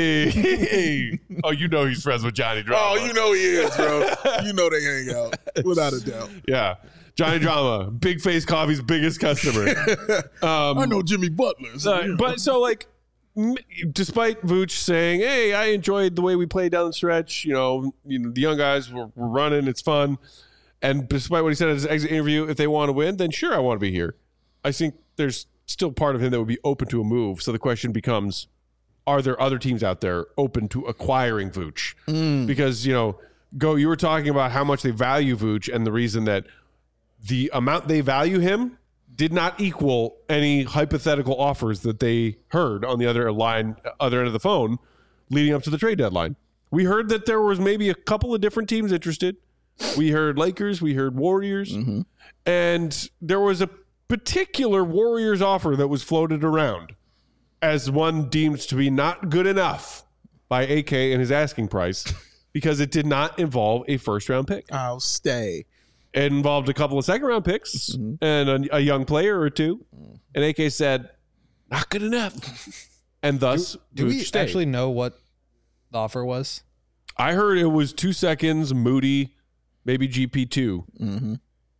Yay. Oh, you know he's friends with Johnny Drama. Oh, you know he is, bro. You know they hang out without a doubt. Yeah. Johnny Drama, Big Face Coffee's biggest customer. Um, I know Jimmy Butler. So, Uh, you know. but so like, m- despite Vooch saying, "Hey, I enjoyed the way we played down the stretch," you know, you know, the young guys were, were running, it's fun, and despite what he said at his exit interview, if they want to win, then sure, I want to be here. I think there's still part of him that would be open to a move. So the question becomes, are there other teams out there open to acquiring Vooch? Mm. Because you know, go. You were talking about how much they value Vooch, and the reason that the amount they value him did not equal any hypothetical offers that they heard on the other line, other end of the phone, leading up to the trade deadline. We heard that there was maybe a couple of different teams interested. We heard Lakers, we heard Warriors, Mm-hmm. and there was a particular Warriors offer that was floated around as one deemed to be not good enough by A K and his asking price because it did not involve a first round pick. I'll stay. It involved a couple of second round picks mm-hmm. and a, a young player or two. And A K said, not good enough. And thus, Do we stayed. actually know what the offer was? I heard it was two seconds, Moody, maybe G P two. Mm-hmm.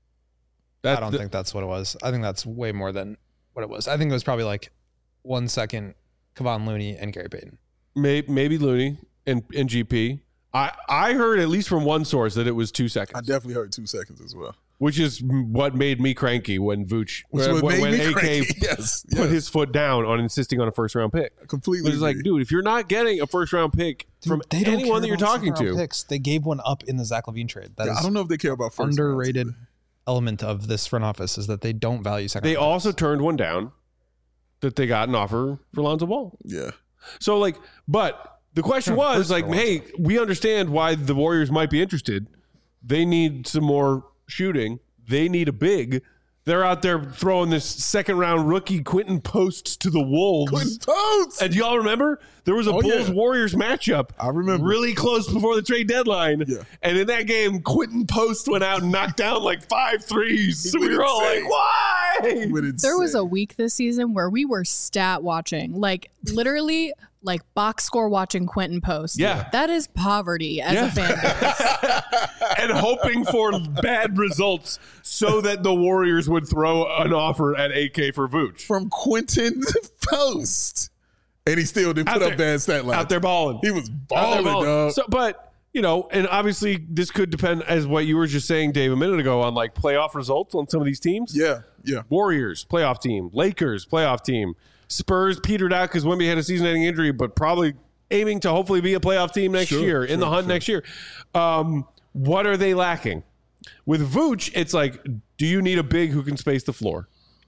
I don't the, think that's what it was. I think that's way more than what it was. I think it was probably like one second, Kevon Looney and Gary Payton. May, maybe Looney and, and G P. I, I heard at least from one source that it was two seconds. I definitely heard two seconds as well. Which is what made me cranky when Vooch, Which when, made when me A K cranky. Yes, put yes. his foot down on insisting on a first round pick. Completely. It's like, dude, if you're not getting a first round pick Dude, from they don't anyone care that you're about talking second to, round picks. They gave one up in the Zach LaVine trade. That Yeah, is I don't know if they care about first underrated rounds. element of this front office is that they don't value second. they round also picks. turned one down that they got an offer for Lonzo Ball. Yeah. So like, but the question Yeah, was first like, for hey, we understand why the Warriors might be interested. They need some more shooting. They need a big. They're out there throwing this second round rookie Quentin Post to the Wolves. Quentin Post. And do y'all remember there was a Oh, Bulls yeah. Warriors matchup? I remember. Really close before the trade deadline. Yeah. And in that game, Quentin Post went out and knocked down like five threes. So we were all like, insane. why? There was a week this season where we were stat watching, like literally like box score watching Quentin Post. Yeah. That is poverty as Yeah. a fan base. And hoping for bad results so that the Warriors would throw an offer at A K for Vooch. From Quentin Post. And he still didn't Out put there- up bad stat lines. Out there balling. He was Out there balling, balling. dog. So, but, you know, and obviously this could depend, as what you were just saying, Dave, a minute ago, on like playoff results on some of these teams. yeah, yeah. Warriors, playoff team. Lakers, playoff team. Spurs petered out because Wemby had a season-ending injury, but probably aiming to hopefully be a playoff team next Sure, year, in sure, the hunt sure. next year. Um, what are they lacking? With Vooch, it's like, do you need a big who can space the floor?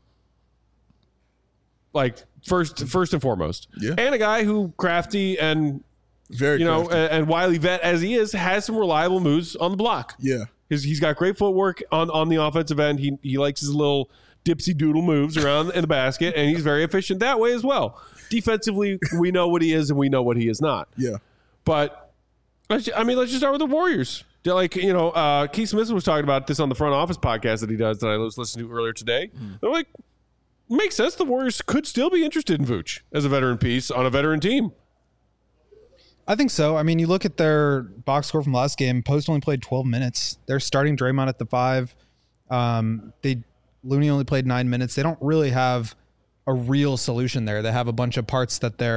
Like, first first and foremost. Yeah. And a guy who crafty and, Very you know, crafty. and, and wily vet as he is, has some reliable moves on the block. Yeah. His, he's got great footwork on, on the offensive end. He he likes his little dipsy doodle moves around in the basket, and he's very efficient that way as well. Defensively, we know what he is and we know what he is not. Yeah. But let's, I mean, let's just start with the Warriors. They're like, you know, uh, Keith Smith was talking about this on the Front Office podcast that he does that I was listening to earlier today. They're like, makes sense. The Warriors could still be interested in Vooch as a veteran piece on a veteran team. I think so. I mean, you look at their box score from last game. Post only played twelve minutes. They're starting Draymond at the five. Um, they Looney only played nine minutes. They don't really have a real solution there. They have a bunch of parts that they're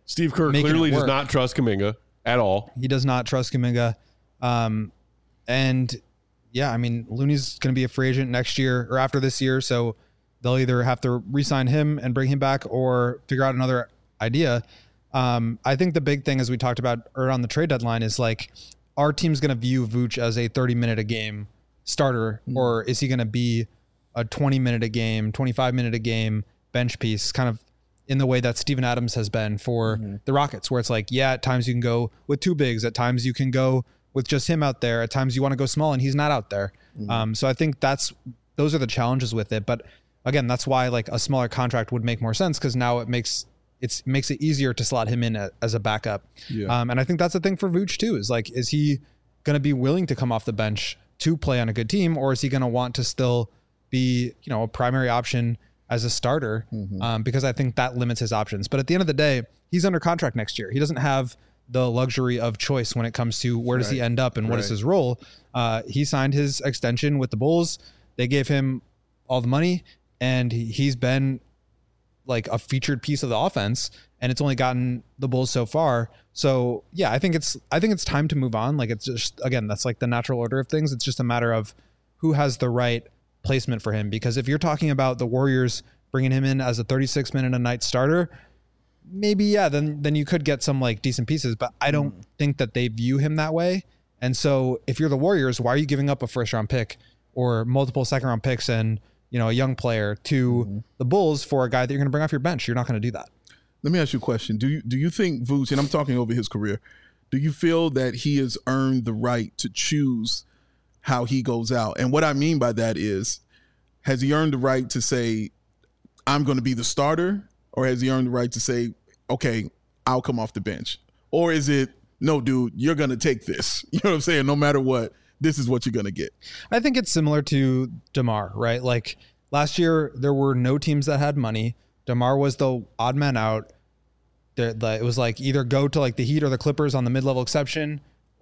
Steve Kerr making clearly it does work. not trust Kuminga at all. He does not trust Kuminga. Um, and yeah, I mean, Looney's going to be a free agent next year or after this year. So they'll either have to re-sign him and bring him back or figure out another idea. Um, I think the big thing, as we talked about around the trade deadline, is like, our team's going to view Vooch as a thirty minute a game starter, mm. or is he going to be a twenty minute a game, twenty-five minute a game bench piece, kind of in the way that Steven Adams has been for mm-hmm. the Rockets, where it's like, yeah, at times you can go with two bigs, at times you can go with just him out there, at times you want to go small and he's not out there. Mm-hmm. Um, so I think that's, those are the challenges with it. But again, that's why like a smaller contract would make more sense, because now it makes it's makes it easier to slot him in a, as a backup. Yeah. Um, and I think that's the thing for Vooch too, is like, is he going to be willing to come off the bench to play on a good team, or is he going to want to still be, you know, a primary option as a starter? Mm-hmm. Um, because I think that limits his options. But at the end of the day, he's under contract next year. He doesn't have the luxury of choice when it comes to where does right. he end up and what right. is his role. Uh, he signed his extension with the Bulls. They gave him all the money, and he, he's been like a featured piece of the offense, and it's only gotten the Bulls so far. So yeah, I think it's, I think it's time to move on. Like, it's just, again, that's like the natural order of things. It's just a matter of who has the right placement for him. Because if you're talking about the Warriors bringing him in as a thirty-six minute a night starter, maybe, yeah, then, then you could get some like decent pieces, but I don't mm. think that they view him that way. And so if you're the Warriors, why are you giving up a first round pick or multiple second round picks and, you know, a young player to mm-hmm. the Bulls for a guy that you're going to bring off your bench? You're not going to do that. Let me ask you a question. Do you do you think Vooch, and I'm talking over his career, do you feel that he has earned the right to choose how he goes out? And what I mean by that is, has he earned the right to say, I'm going to be the starter? Or has he earned the right to say, okay, I'll come off the bench? Or is it, no, dude, you're going to take this. You know what I'm saying? No matter what, this is what you're going to get. I think it's similar to DeMar, right? Like last year, there were no teams that had money. DeMar was the odd man out. The, the, it was like either go to like the Heat or the Clippers on the mid-level exception,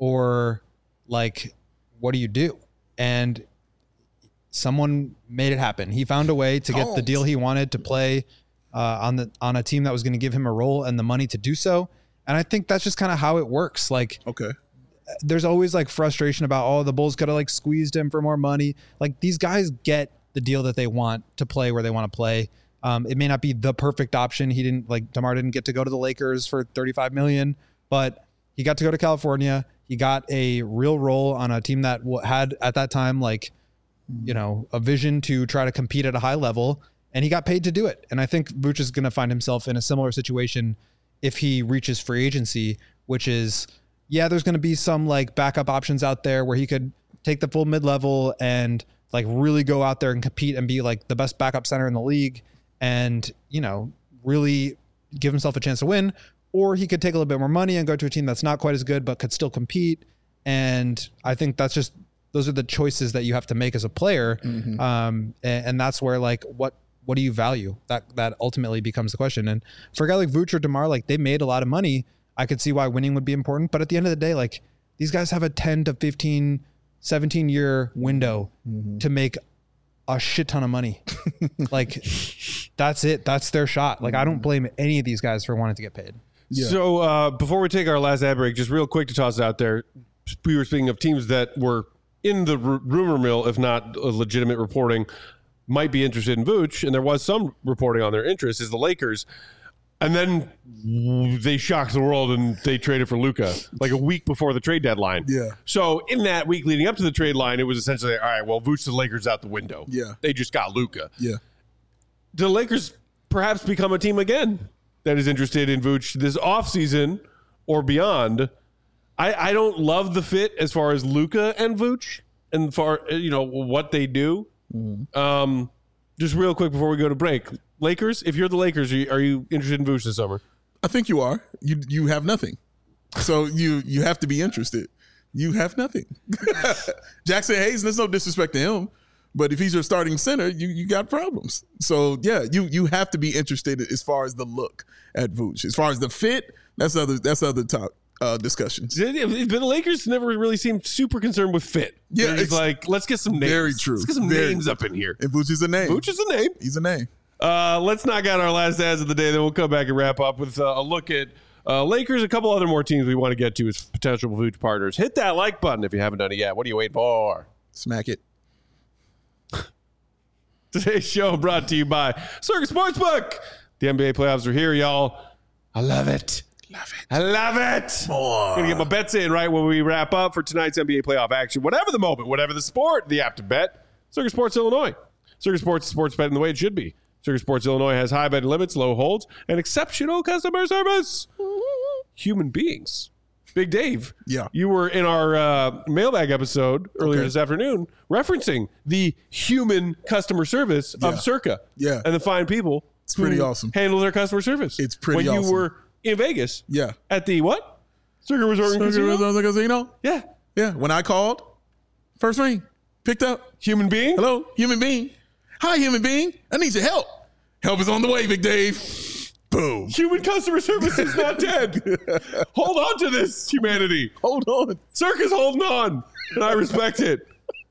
or like, what do you do? And someone made it happen. He found a way to get oh. the deal he wanted to play uh, on the on a team that was going to give him a role and the money to do so. And I think that's just kind of how it works. Like, okay, there's always like frustration about, oh, the Bulls could have like squeezed him for more money. Like, these guys get the deal that they want to play where they want to play. Um, it may not be the perfect option. He didn't like DeMar didn't get to go to the Lakers for thirty-five million, but he got to go to California. He got a real role on a team that had at that time, like, you know, a vision to try to compete at a high level, and he got paid to do it. And I think Vooch is going to find himself in a similar situation if he reaches free agency, which is, yeah, there's going to be some like backup options out there where he could take the full mid-level and like really go out there and compete and be like the best backup center in the league and, you know, really give himself a chance to win. Or he could take a little bit more money and go to a team that's not quite as good, but could still compete. And I think that's just, those are the choices that you have to make as a player. Mm-hmm. Um, and, and that's where like, what, what do you value? That, that ultimately becomes the question. And for a guy like Vooch or DeMar, like they made a lot of money. I could see why winning would be important, but at the end of the day, like these guys have a ten to fifteen, seventeen year window mm-hmm. to make a shit ton of money. Like that's it. That's their shot. Like, I don't blame any of these guys for wanting to get paid. Yeah. So uh, before we take our last ad break, just real quick to toss it out there. We were speaking of teams that were in the r- rumor mill, if not a legitimate reporting, might be interested in Vooch, and there was some reporting on their interest, is the Lakers. And then they shocked the world and they traded for Luka like a week before the trade deadline. Yeah. So in that week leading up to the trade line, it was essentially, all right, well, Vooch to the Lakers out the window. Yeah. They just got Luka. Yeah. Do the Lakers perhaps become a team again that is interested in Vooch this offseason or beyond? I, I don't love the fit as far as Luka and Vooch and far, you know, what they do. Mm-hmm. Um, just real quick before we go to break. Lakers, if you're the Lakers, are you, are you interested in Vooch this summer? I think you are. You you have nothing. So you you have to be interested. You have nothing. Jackson Hayes, there's no disrespect to him, but if he's your starting center, you you got problems. So yeah, you you have to be interested as far as the look at Vooch. As far as the fit, that's other that's other talk. Uh, discussions. But the Lakers never really seemed super concerned with fit. Yeah, it's like, let's get some names. Very true. Let's get some very names true. up in here. And Vooch is a name. Vooch is a name. He's a name. Uh, let's knock out our last ads of the day. Then we'll come back and wrap up with uh, a look at Uh, Lakers, a couple other more teams we want to get to as potential Vooch partners. Hit that like button if you haven't done it yet. What are you waiting for? Smack it. Today's show brought to you by Circus Sportsbook. The N B A playoffs are here, y'all. I love it. Love it. I love it. More. Gonna get my bets in right when we wrap up for tonight's N B A playoff action. Whatever the moment, whatever the sport, the app to bet. Circus Sports Illinois. Circus Sports is sports betting the way it should be. Circus Sports Illinois has high betting limits, low holds, and exceptional customer service. Human beings. Big Dave. Yeah. You were in our uh, mailbag episode earlier Okay. this afternoon referencing the human customer service Yeah. of Circa. Yeah. And the fine people. It's pretty who awesome. Handle their customer service. It's pretty when awesome. you were in Vegas. Yeah. At the what? Circa Resort and Circa Casino? Resort and Casino? Yeah. Yeah. When I called, first ring, picked up. Human being? Hello, human being. Hi, human being. I need your help. Help is on the way, Big Dave. Boom. Human customer service is not dead. Hold on to this, humanity. Hold on. Circa's holding on, and I respect it.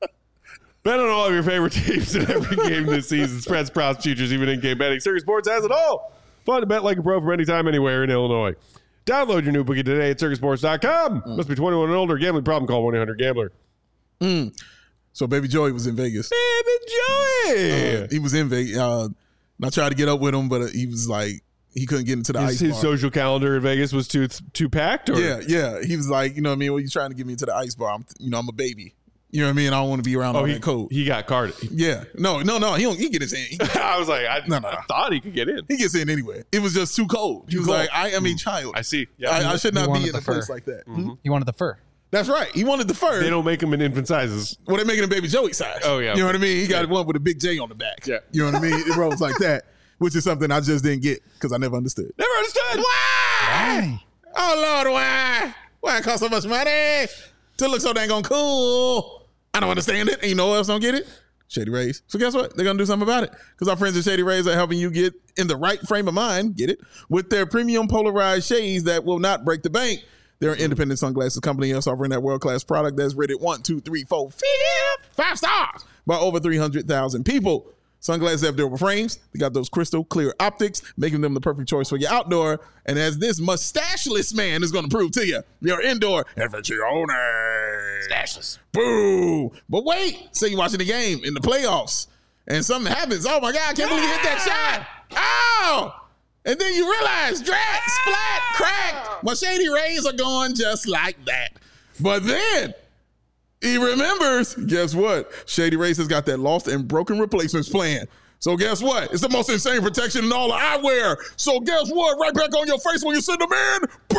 Bet on all of your favorite teams in every game this season. Spreads, props, futures, even in-game betting. Circa Sports has it all. Fun to bet like a pro from anytime, anywhere in Illinois. Download your new bookie today at circa sports dot com. Mm. Must be twenty-one and older. Gambling problem, call one eight hundred gambler. Mm. So Baby Joey was in Vegas. Baby Joey! Uh, he was in Vegas. Uh, I tried to get up with him, but uh, he was like, he couldn't get into the his, ice his bar. social calendar in Vegas was too too packed? Or? Yeah, yeah. He was like, you know what I mean? Well, you trying to get me into the ice bar. I'm, you know, I'm a baby. You know what I mean? I don't want to be around Oh, all he, that cold. he got carded. Yeah. No, no, no. He don't. He get his in. He, I was like, I, No, no, no. I thought he could get in. he gets in anyway. It was just too cold. He was cold. like, I am a child. I see. Yeah. I, I should He not wanted be in the a place fur. like that. Mm-hmm. Hmm? He wanted the fur. That's right. He wanted the fur. They don't make them in infant sizes. Well, they're making a Baby Joey size. Oh, yeah. You know what I mean? He got Yeah. one with a big J on the back. Yeah. You know what I mean? It rolls like that, which is something I just didn't get because I never understood. Never understood. Why? Oh, Lord, why? Why it cost so much money to look so dang on cool? I don't understand it. And you know who else don't get it? Shady Rays. So guess what? They're going to do something about it because our friends at Shady Rays are helping you get in the right frame of mind, get it, with their premium polarized shades that will not break the bank. They're an independent sunglasses company that's offering that world-class product that's rated one, two, three, four, five stars by over three hundred thousand people. Sunglasses have durable frames. They got those crystal clear optics, making them the perfect choice for your outdoor. And as this mustacheless man is going to prove to you, your indoor aficiones. Mustacheless. Boo. But wait, say you're watching the game in the playoffs and something happens. Oh my God, I can't believe you hit that shot. Oh. And then you realize, drat, splat, cracked. My Shady Rays are going just like that. But then he remembers, guess what? Shady Rays has got that lost and broken replacements plan. So guess what? It's the most insane protection in all of eyewear. So guess what? Right back on your face when you send them in.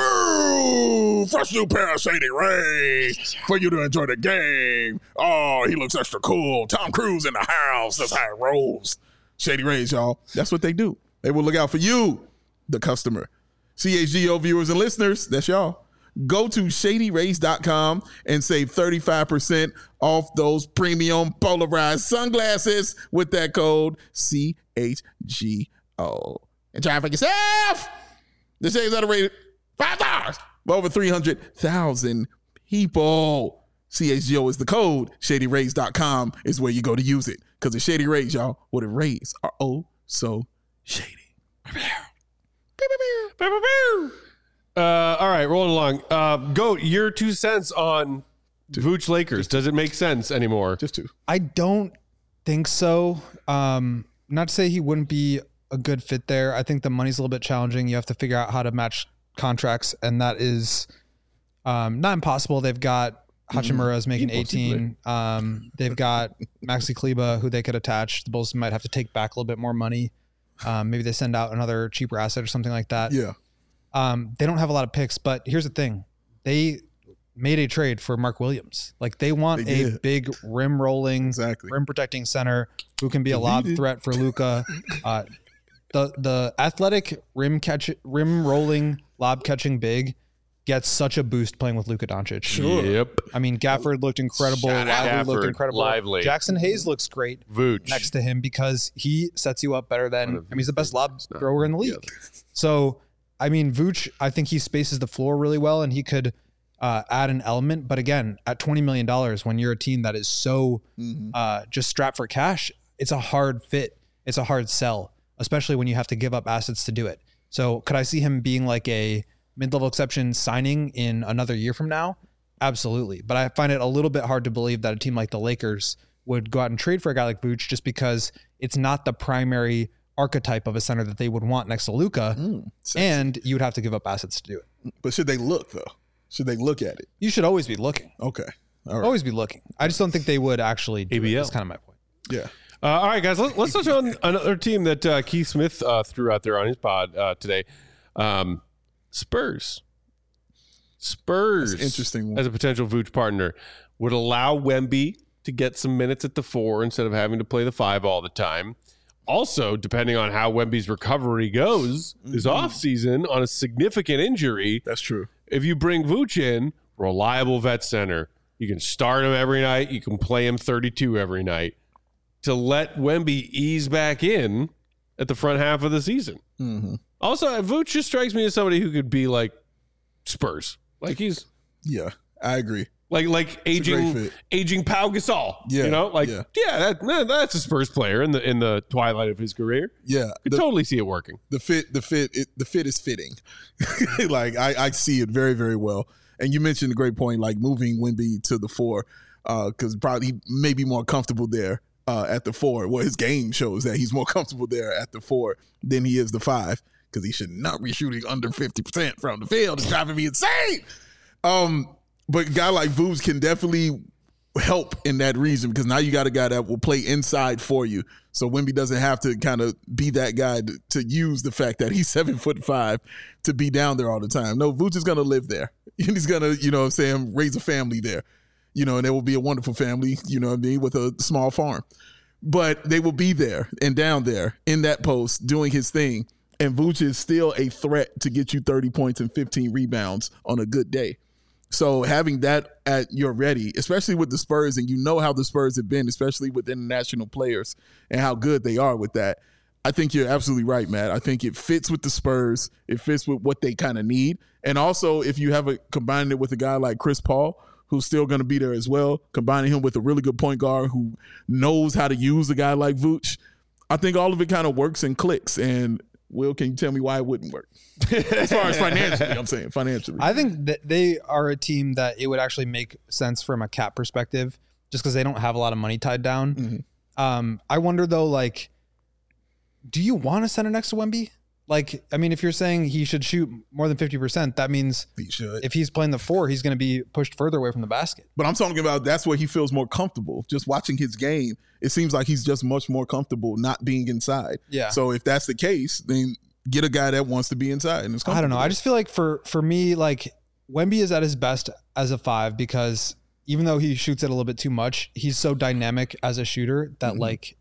Boo! Fresh new pair of Shady Rays for you to enjoy the game. Oh, he looks extra cool. Tom Cruise in the house. That's how it rolls. Shady Rays, y'all. That's what they do. They will look out for you, the customer. C H G O viewers and listeners, that's y'all. Go to shady rays dot com and save thirty-five percent off those premium polarized sunglasses with that code C H G O. And try it for yourself. The shades are rated five stars by over three hundred thousand people. C H G O is the code. shady rays dot com is where you go to use it. Because the Shady Rays, y'all, where the rays are oh so shady. Uh, all right, rolling along. Uh, Goat, your two cents on Vooch Lakers. Does it make sense anymore? Just two. I don't think so. Um, not to say he wouldn't be a good fit there. I think the money's a little bit challenging. You have to figure out how to match contracts, and that is um, not impossible. They've got Hachimura is making eighteen. Um, they've got Maxi Kleba, who they could attach. The Bulls might have to take back a little bit more money. Um, maybe they send out another cheaper asset or something like that. Yeah. Um, they don't have a lot of picks, but here's the thing. They made a trade for Mark Williams. Like they want They a did. big rim rolling, Exactly. rim protecting center who can be a lob threat for Luka. Uh, the the athletic rim catch rim rolling lob catching big gets such a boost playing with Luka Doncic. Sure. Yep. I mean, Gafford looked incredible. Shout out. Lively looked Gafford, incredible. Lively. Jackson Hayes looks great Vooch. next to him because he sets you up better than, I mean, he's the best lob not thrower in the league. So, I mean, Vooch, I think he spaces the floor really well and he could uh, add an element. But again, at twenty million dollars, when you're a team that is so Mm-hmm. uh, just strapped for cash, it's a hard fit. It's a hard sell, especially when you have to give up assets to do it. So could I see him being like a mid-level exception signing in another year from now? Absolutely. But I find it a little bit hard to believe that a team like the Lakers would go out and trade for a guy like Vooch just because it's not the primary archetype of a center that they would want next to Luka. Mm, and you would have to give up assets to do it. But should they look, though? Should they look at it? You should always be looking. Okay. All right. Always be looking. I just don't think they would actually do A B L. it. That's kind of my point. Yeah. Uh, all right, guys, let's, let's touch on another team that uh, Keith Smith uh, threw out there on his pod uh, today. Um, Spurs. Spurs, That's an interesting one. As a potential Vooch partner, would allow Wemby to get some minutes at the four instead of having to play the five all the time. Also, depending on how Wemby's recovery goes mm-hmm. this offseason on a significant injury. That's true. If you bring Vooch in, reliable vet center, you can start him every night. You can play him thirty-two every night. To let Wemby ease back in at the front half of the season. Mm-hmm. Also, Vooch just strikes me as somebody who could be like Spurs. Like he's yeah, I agree. Like like aging aging Pau Gasol. Yeah, you know, like yeah, yeah that, that, that's a Spurs player in the in the twilight of his career. Yeah, could the, totally see it working. The fit, the fit, it, the fit is fitting. Like I, I see it very very well. And you mentioned a great point, like moving Wemby to the four, because uh, probably he may be more comfortable there. Uh, at the four, well, his game shows that he's more comfortable there at the four than he is the five, because he should not be shooting under fifty percent from the field. It's driving me insane. Um, but a guy like Vooch can definitely help in that reason, because now you got a guy that will play inside for you. So Wemby doesn't have to kind of be that guy to, to use the fact that he's seven foot five to be down there all the time. No, Vooch is going to live there. He's going to, you know what I'm saying, raise a family there. You know, and there will be a wonderful family, you know what I mean, with a small farm. But they will be there and down there in that post doing his thing. And Vooch is still a threat to get you thirty points and fifteen rebounds on a good day. So having that at your ready, especially with the Spurs, and you know how the Spurs have been, especially with international players and how good they are with that, I think you're absolutely right, Matt. I think it fits with the Spurs. It fits with what they kind of need. And also, if you have a combined it with a guy like Chris Paul, who's still going to be there as well, combining him with a really good point guard who knows how to use a guy like Vooch, I think all of it kind of works and clicks. And Will, can you tell me why it wouldn't work? As far as financially, I'm saying financially. I think that they are a team that it would actually make sense from a cap perspective, just because they don't have a lot of money tied down. Mm-hmm. Um, I wonder though, like, do you want to center next to Wemby? Like, I mean, if you're saying he should shoot more than fifty percent, that means he should. If he's playing the four, he's going to be pushed further away from the basket. But I'm talking about that's where he feels more comfortable. Just watching his game, it seems like he's just much more comfortable not being inside. Yeah. So if that's the case, then get a guy that wants to be inside. And it's I don't know. I just feel like for, for me, like Wemby is at his best as a five, because even though he shoots it a little bit too much, he's so dynamic as a shooter that mm-hmm. like,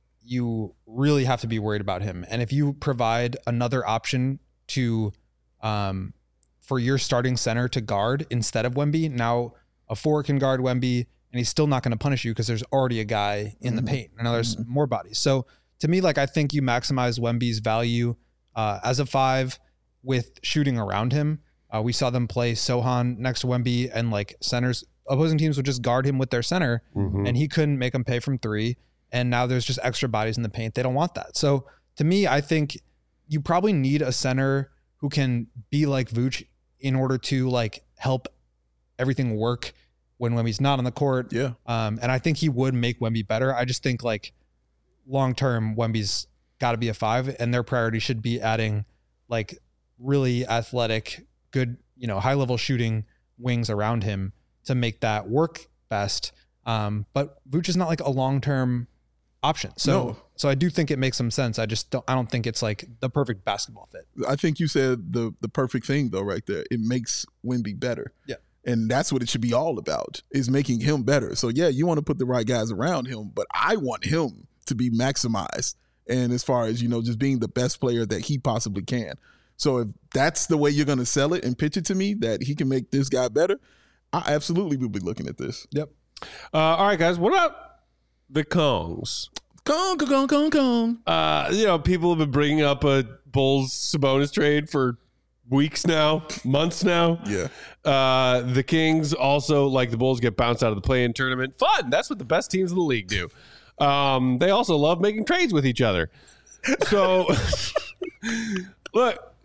you really have to be worried about him. And if you provide another option to, um, for your starting center to guard instead of Wemby, now a four can guard Wemby and he's still not going to punish you because there's already a guy in mm-hmm. the paint. And now there's mm-hmm. more bodies. So to me, like, I think you maximize Wemby's value uh, as a five with shooting around him. Uh, we saw them play Sohan next to Wemby, and like centers, opposing teams would just guard him with their center mm-hmm. and he couldn't make them pay from three. And now there's just extra bodies in the paint. They don't want that. So to me, I think you probably need a center who can be like Vooch in order to like help everything work when Wemby's not on the court. Yeah. Um, and I think he would make Wemby better. I just think like long-term Wemby's got to be a five, and their priority should be adding like really athletic, good, you know, high level shooting wings around him to make that work best. Um, but Vooch is not like a long-term option. So, no. so I do think it makes some sense. I just don't, I don't think it's like the perfect basketball fit. I think you said the, the perfect thing though, right there. It makes Wemby better. Yeah. And that's what it should be all about, is making him better. So yeah, you want to put the right guys around him, but I want him to be maximized. And as far as, you know, just being the best player that he possibly can. So if that's the way you're going to sell it and pitch it to me, that he can make this guy better, I absolutely will be looking at this. Yep. Uh, all right, guys. What about the Kongs? Kong, Kong, Kong, Kong. Uh, you know, people have been bringing up a Bulls Sabonis trade for weeks now, months now. Yeah. Uh, the Kings also, like the Bulls, get bounced out of the play-in tournament. Fun. That's what the best teams in the league do. Um, they also love making trades with each other. So, look,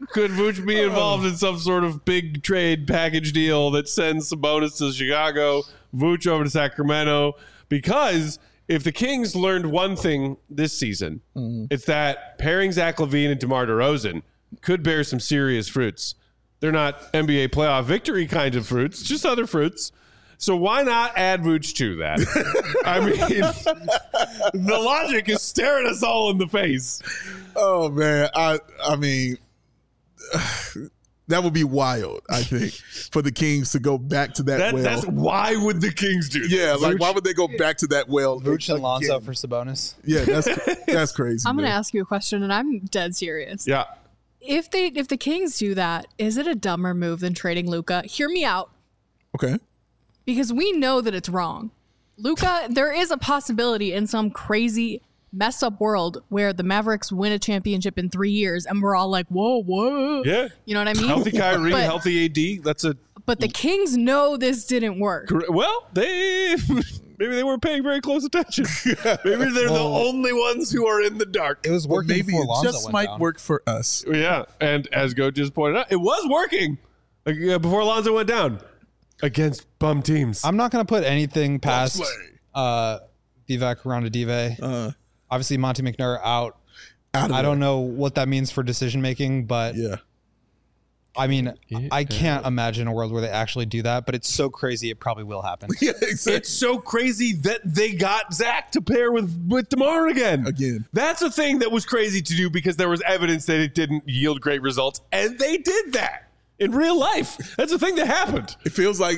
Could Vooch be involved in some sort of big trade package deal that sends Sabonis to Chicago, Vooch over to Sacramento? Because if the Kings learned one thing this season, mm-hmm. it's that pairing Zach LaVine and DeMar DeRozan could bear some serious fruits. They're not N B A playoff victory kind of fruits, just other fruits. So why not add Vooch to that? I mean, the logic is staring us all in the face. Oh, man. I I mean, that would be wild, I think, for the Kings to go back to that, that well. That's why would the Kings do that? Yeah, like, why would they go back to that well? Vooch and Lonzo again? for Sabonis. Yeah, that's that's crazy. I'm going to man. ask you a question, and I'm dead serious. Yeah. If they if the Kings do that, is it a dumber move than trading Luka? Hear me out. Okay. Because we know that it's wrong. Luka, there is a possibility in some crazy messed up world where the Mavericks win a championship in three years and we're all like, whoa, whoa. Yeah. You know what I mean? Healthy Kyrie, But- healthy A D. That's a But the Kings know this didn't work. well, they maybe they weren't paying very close attention. Maybe they're the only ones who are in the dark. It was Well, working maybe before it Lonzo just went might down. work for us. Yeah, and as Go just pointed out, it was working. Like, yeah, before Alonzo went down against bum teams. I'm not going to put anything past Bobsleigh. uh, Vivek Ranadive. Uh, Obviously, Monty McNair out. out of I there. don't know what that means for decision making, but Yeah. I mean, I can't imagine a world where they actually do that. But it's so crazy, it probably will happen. Yeah, exactly. It's so crazy that they got Zach to pair with, with DeMar again. Again. That's a thing that was crazy to do because there was evidence that it didn't yield great results. And they did that in real life. That's a thing that happened. It feels like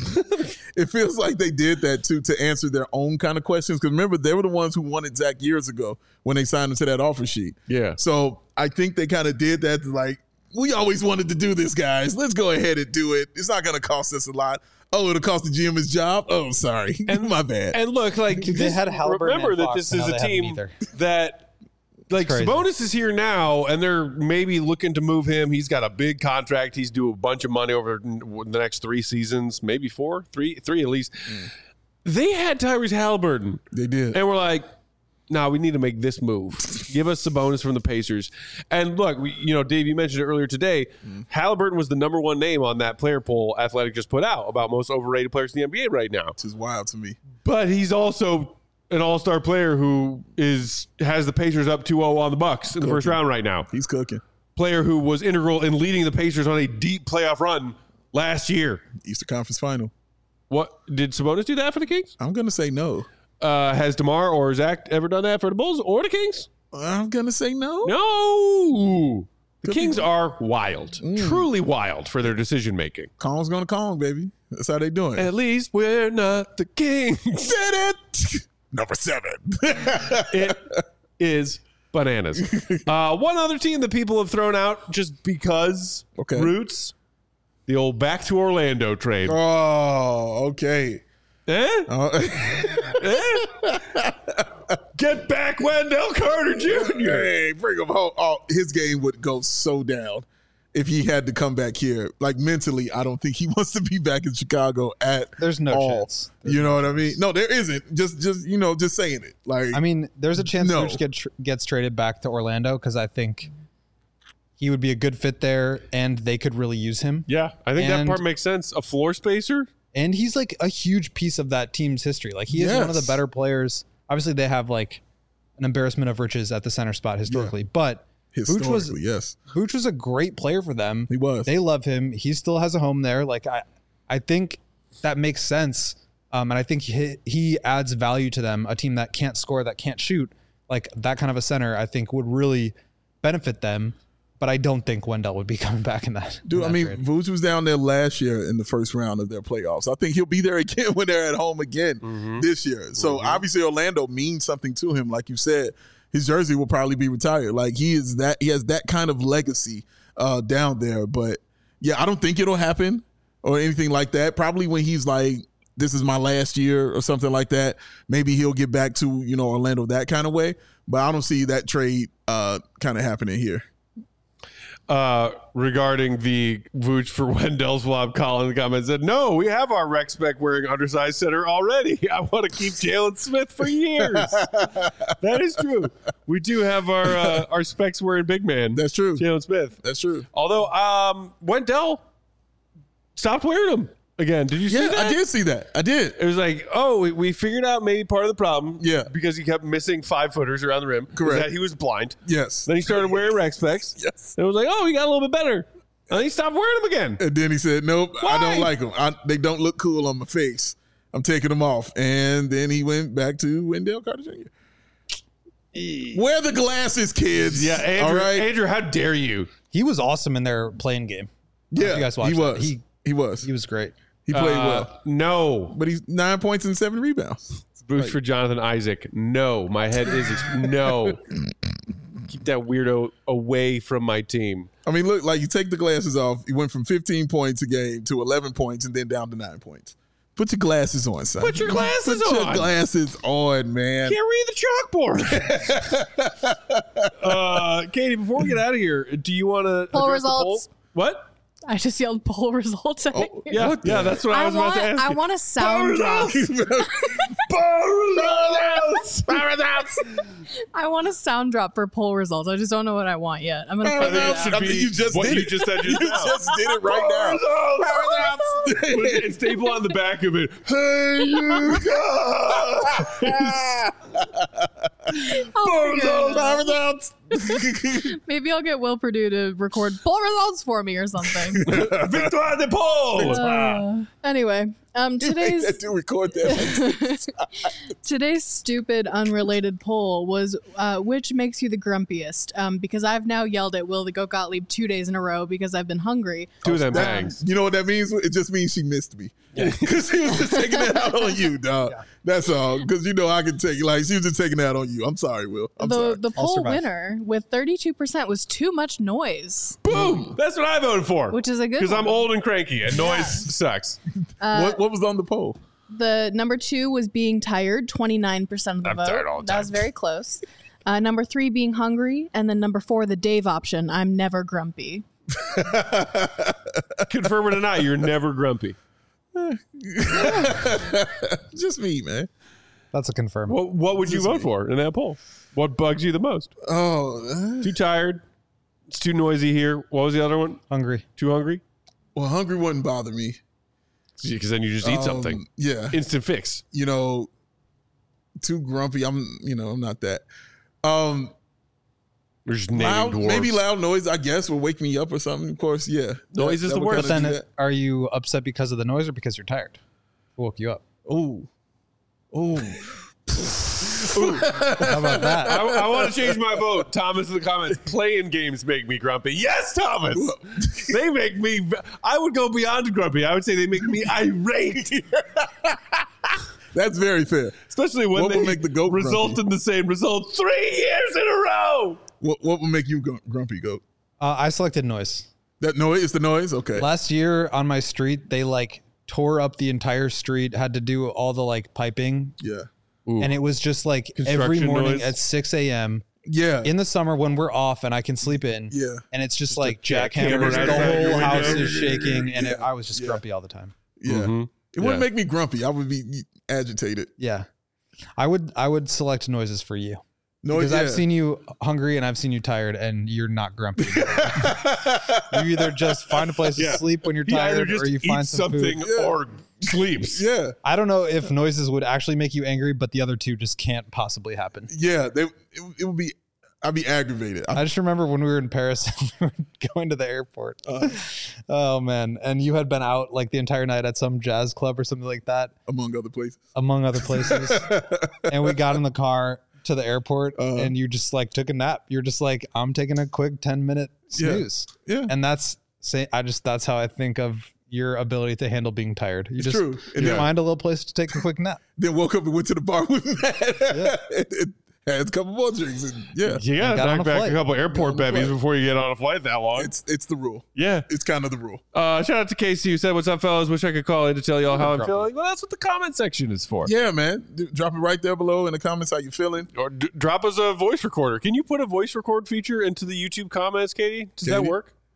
it feels like they did that too to answer their own kind of questions. Because remember, they were the ones who wanted Zach years ago when they signed him to that offer sheet. Yeah. So I think they kind of did that to like, we always wanted to do this, guys. Let's go ahead and do it. It's not going to cost us a lot. Oh, it'll cost the G M his job? Oh, sorry. And- My bad. And look, like They this- had Halliburton remember and that Fox, this and is now a they haven't team either. that like crazy. Sabonis is here now, and they're maybe looking to move him. He's got a big contract. He's due a bunch of money over the next three seasons, maybe four, three, three at least. Mm. They had Tyrese Halliburton, they did. and we're like, "No, nah, we need to make this move. Give us Sabonis from the Pacers." And look, we, you know, Dave, you mentioned it earlier today. Mm. Halliburton was the number one name on that player poll Athletic just put out about most overrated players in the N B A right now. Which is wild to me. But he's also an all-star player who is has the Pacers up two oh on the Bucks in the first round right now. He's cooking. Player who was integral in leading the Pacers on a deep playoff run last year. Eastern Conference Final. What did Sabonis do that for the Kings? I'm going to say no. Uh, has DeMar or Zach ever done that for the Bulls or the Kings? I'm going to say no. No. The Could Kings be- are wild, Mm. truly wild for their decision making. Kong's going to Kong, baby. That's how they doing. At least we're not the Kings. Did it. Number seven. It is bananas. Uh, one other team that people have thrown out just because Okay. roots, the old back to Orlando trade. Oh, okay. Eh? Uh, Eh? Get back Wendell Carter Junior hey, bring him home. Oh, his game would go so down if he had to come back here. Like mentally, I don't think he wants to be back in Chicago at There's no all. chance. There's you know what I mean? No, there isn't. Just, just you know, just saying it. Like, I mean, there's a chance No. Vooch get tr- gets traded back to Orlando because I think he would be a good fit there, and they could really use him. Yeah, I think that And- part makes sense. A floor spacer? And he's like a huge piece of that team's history. Like he is one of the Yes. better players. Obviously, they have like an embarrassment of riches at the center spot historically, but Vooch was historically, yes, Vooch was a great player for them. he was. They love him. He still has a home there. Like I, I think that makes sense. Um, and I think he, he adds value to them. A team that can't score, that can't shoot, like that kind of a center, I think would really benefit them. But I don't think Wendell would be coming back in that. Dude, in I that mean, trade. Vooch was down there last year in the first round of their playoffs. I think he'll be there again when they're at home again Mm-hmm. this year. So obviously, Orlando means something to him. Like you said, his jersey will probably be retired. Like he is that he has that kind of legacy uh, down there. But yeah, I don't think it'll happen or anything like that. Probably when he's like, this is my last year or something like that. Maybe he'll get back to, you know, Orlando that kind of way. But I don't see that trade uh, kind of happening here. uh, regarding the Vooch for Wendell swap. Colin in the comments said, no, we have our rec spec wearing undersized center already. I want to keep Jalen Smith for years. That is true. We do have our uh, our specs wearing big man. That's true. Jalen Smith. That's true. Although um, Wendell stopped wearing them again. Did you see Yeah, that? I did see that. I did. It was like, oh, we, we figured out maybe part of the problem. Yeah. Because he kept missing five footers around the rim. is Correct. That he was blind. Yes. Then he started wearing rec specs. Yes. And it was like, oh, he got a little bit better. And then he stopped wearing them again. And then he said, nope, I Why? don't like them. I, they don't look cool on my face. I'm taking them off. And then he went back to Wendell Carter Junior Wear the glasses, kids. Yeah, Andrew, All right. Andrew, how dare you? He was awesome in their playing game. I don't know Yeah, if you guys watched he that. was. He He was. he was great. He played Uh, well. No. But he's nine points and seven rebounds. Boost for Jonathan Isaac. No. My head is ex- no. Keep that weirdo away from my team. I mean, look, like you take the glasses off. He went from fifteen points a game to eleven points and then down to nine points. Put your glasses on, son. Put your glasses Put on. your glasses on, man. Can't read the chalkboard. uh, Katie, before we get out of here, do you want to Poll results. What? I just yelled poll results. At you. Yeah, What the- yeah, that's what I, I was want. about to ask. I you. want a sound drop. I want a sound drop for poll results. I just don't know what I want yet. I'm gonna I figure think it it should out. I be think you just what did you it. just said You just now. just did it right now. And staple on the back of it. Hey, you guys. I'll figure it out. Maybe I'll get Will Purdue to record poll results for me or something. Victoire de Paul. Uh, anyway, um, today's to record that. today's stupid, unrelated poll was uh, which makes you the grumpiest? Um, because I've now yelled at Will the Goat Gottlieb two days in a row because I've been hungry. Two of them That- bangs. you know what that means? It just means she missed me. Because she was just taking that out on you, dog. That's all. Because you know I can take like she was just taking that on you. I'm sorry, Will. I'm the sorry. the I'll poll survive. winner with thirty-two percent was too much noise, Boom. That's what I voted for. which is a good Because I'm one. old and cranky and noise sucks. what what was on the poll? The number two was being tired, twenty-nine percent of the I'm vote. tired all the That was time. very close. Uh, number three being hungry, and then number four, the Dave option. I'm never grumpy. Confirm it or not, you're never grumpy. Just me, man. That's a confirm. What, what would you vote for in that poll? What bugs you the most? Oh, uh, Too tired. It's too noisy here. What was the other one? Hungry. Too hungry? well, hungry wouldn't bother me. Because then you just eat Um, something. Yeah, Instant fix. you know, too grumpy. I'm, you know, I'm not that. Um, We're just naming loud, dwarves. maybe loud noise. I guess will wake me up or something. Of course, yeah. Noise is the would worst. But kinda then, do are you upset because of the noise or because you're tired? Who woke you up? that. Ooh, ooh. How about that? I, I want to change my vote. Thomas in the comments. Playing games make me grumpy. Yes, Thomas. They make me. I would go beyond grumpy. I would say they make me irate. That's very fair. Especially when What they would make the goat result grumpy? in the same result three years in a row. What what would make you gr- grumpy, goat? Uh, I selected noise. That noise is the noise. Okay. Last year on my street, they like tore up the entire street, had to do all the like piping. Yeah. And it was just like every Construction morning noise. at six a.m. Yeah. in the summer when we're off and I can sleep in. Yeah. And it's just, like jackhammer jackhammers. right The outside your whole house window. is shaking. And it, Yeah. I was just Yeah. grumpy all the time. yeah. Mhm. It wouldn't Yeah. make me grumpy. I would be agitated. Yeah. I would I would select noises for you. No, Because yeah. I've seen you hungry and I've seen you tired and you're not grumpy. You either just find a place Yeah. to sleep when you're He either tired just or you eats find some something food. Yeah. or sleeps. Yeah. I don't know if noises would actually make you angry, but the other two just can't possibly happen. Yeah. They, it, it would be, I'd be aggravated. I, I just remember when we were in Paris and we were going to the airport. Oh man. And you had been out like the entire night at some jazz club or something like that, among other places. among other places. And we got in the car to the airport Uh-huh. and you just like took a nap. You're just like, I'm taking a quick ten minute Yeah. snooze. Yeah. And that's say I just that's how I think of your ability to handle being tired. You It's just true. And you then, find a little place to take a quick nap. then woke up and went to the bar with Matt. it, it had a couple more drinks. And yeah. You gotta got on knock a back flight. a couple airport Got on a bevies flight. before you get on a flight that long. It's, it's the rule. yeah. It's kind of the rule. Uh, shout out to Casey who said, "What's up, fellas? Wish I could call in to tell y'all how I'm grumpy. feeling." Well, that's what the comment section is for. Yeah, man. D- Drop it right there below in the comments how you feeling. Or d- drop us a voice recorder. Can you put a voice record feature into the YouTube comments, Katie? Does that Katie? work?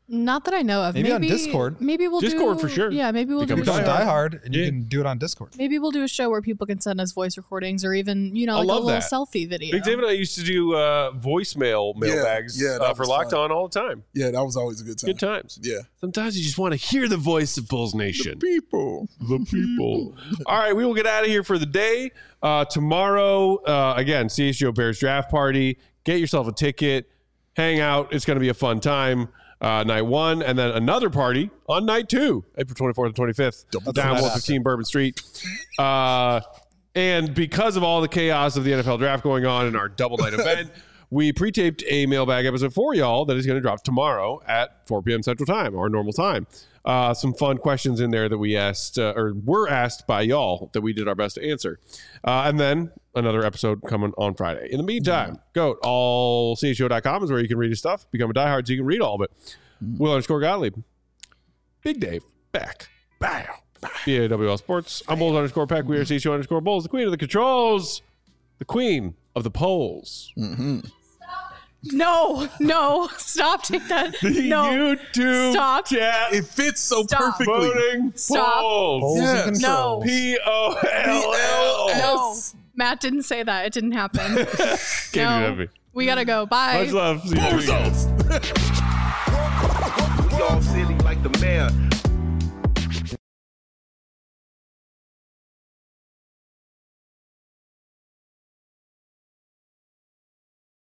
Not that I know of. Maybe Maybe on Discord. Maybe we'll Discord do, for sure. Yeah, maybe we'll Become do a a Go on show. Die Die Hard, and Yeah. you can do it on Discord. Maybe we'll do a show where people can send us voice recordings or even, you know, I like a love little that. selfie video. Big David and I used to do uh, voicemail mailbags yeah, that uh, for was Locked fun. On all the time. Yeah, that was always a good time. Good times. Yeah. Sometimes you just want to hear the voice of Bulls Nation. People. The people. All right, we will get out of here for the day. Uh, tomorrow, uh, again, C H G O Bears draft party. Get yourself a ticket. Hang out. It's going to be a fun time. Uh, night one, and then another party on night two, April twenty-fourth and twenty-fifth, down one fifteen Bourbon Street. Uh, and because of all the chaos of the N F L draft going on in our double night event, we pre-taped a mailbag episode for y'all that is going to drop tomorrow at four p.m. Central Time, our normal time. Uh, some fun questions in there that we asked, uh, or were asked by y'all that we did our best to answer. Uh, and then another episode coming on Friday. In the meantime, go to all C H G O dot com is where you can read his stuff. Become a diehard so you can read all of it. Will underscore Gottlieb. Big Dave, back. Bow. B A W L Sports. I'm Bulls underscore Peck. We are C H G O underscore Bulls, the queen of the controls, the queen of the polls. No, no, stop. Take that. The No, YouTube stop. chat It fits so Stop. perfectly. voting Stop. polls. Polls and Yes. controls. P O L L S. No, Matt didn't say that. It didn't happen. Can't do No. that to me. We gotta go. Bye. Much love. See you next week. We all silly like the mayor.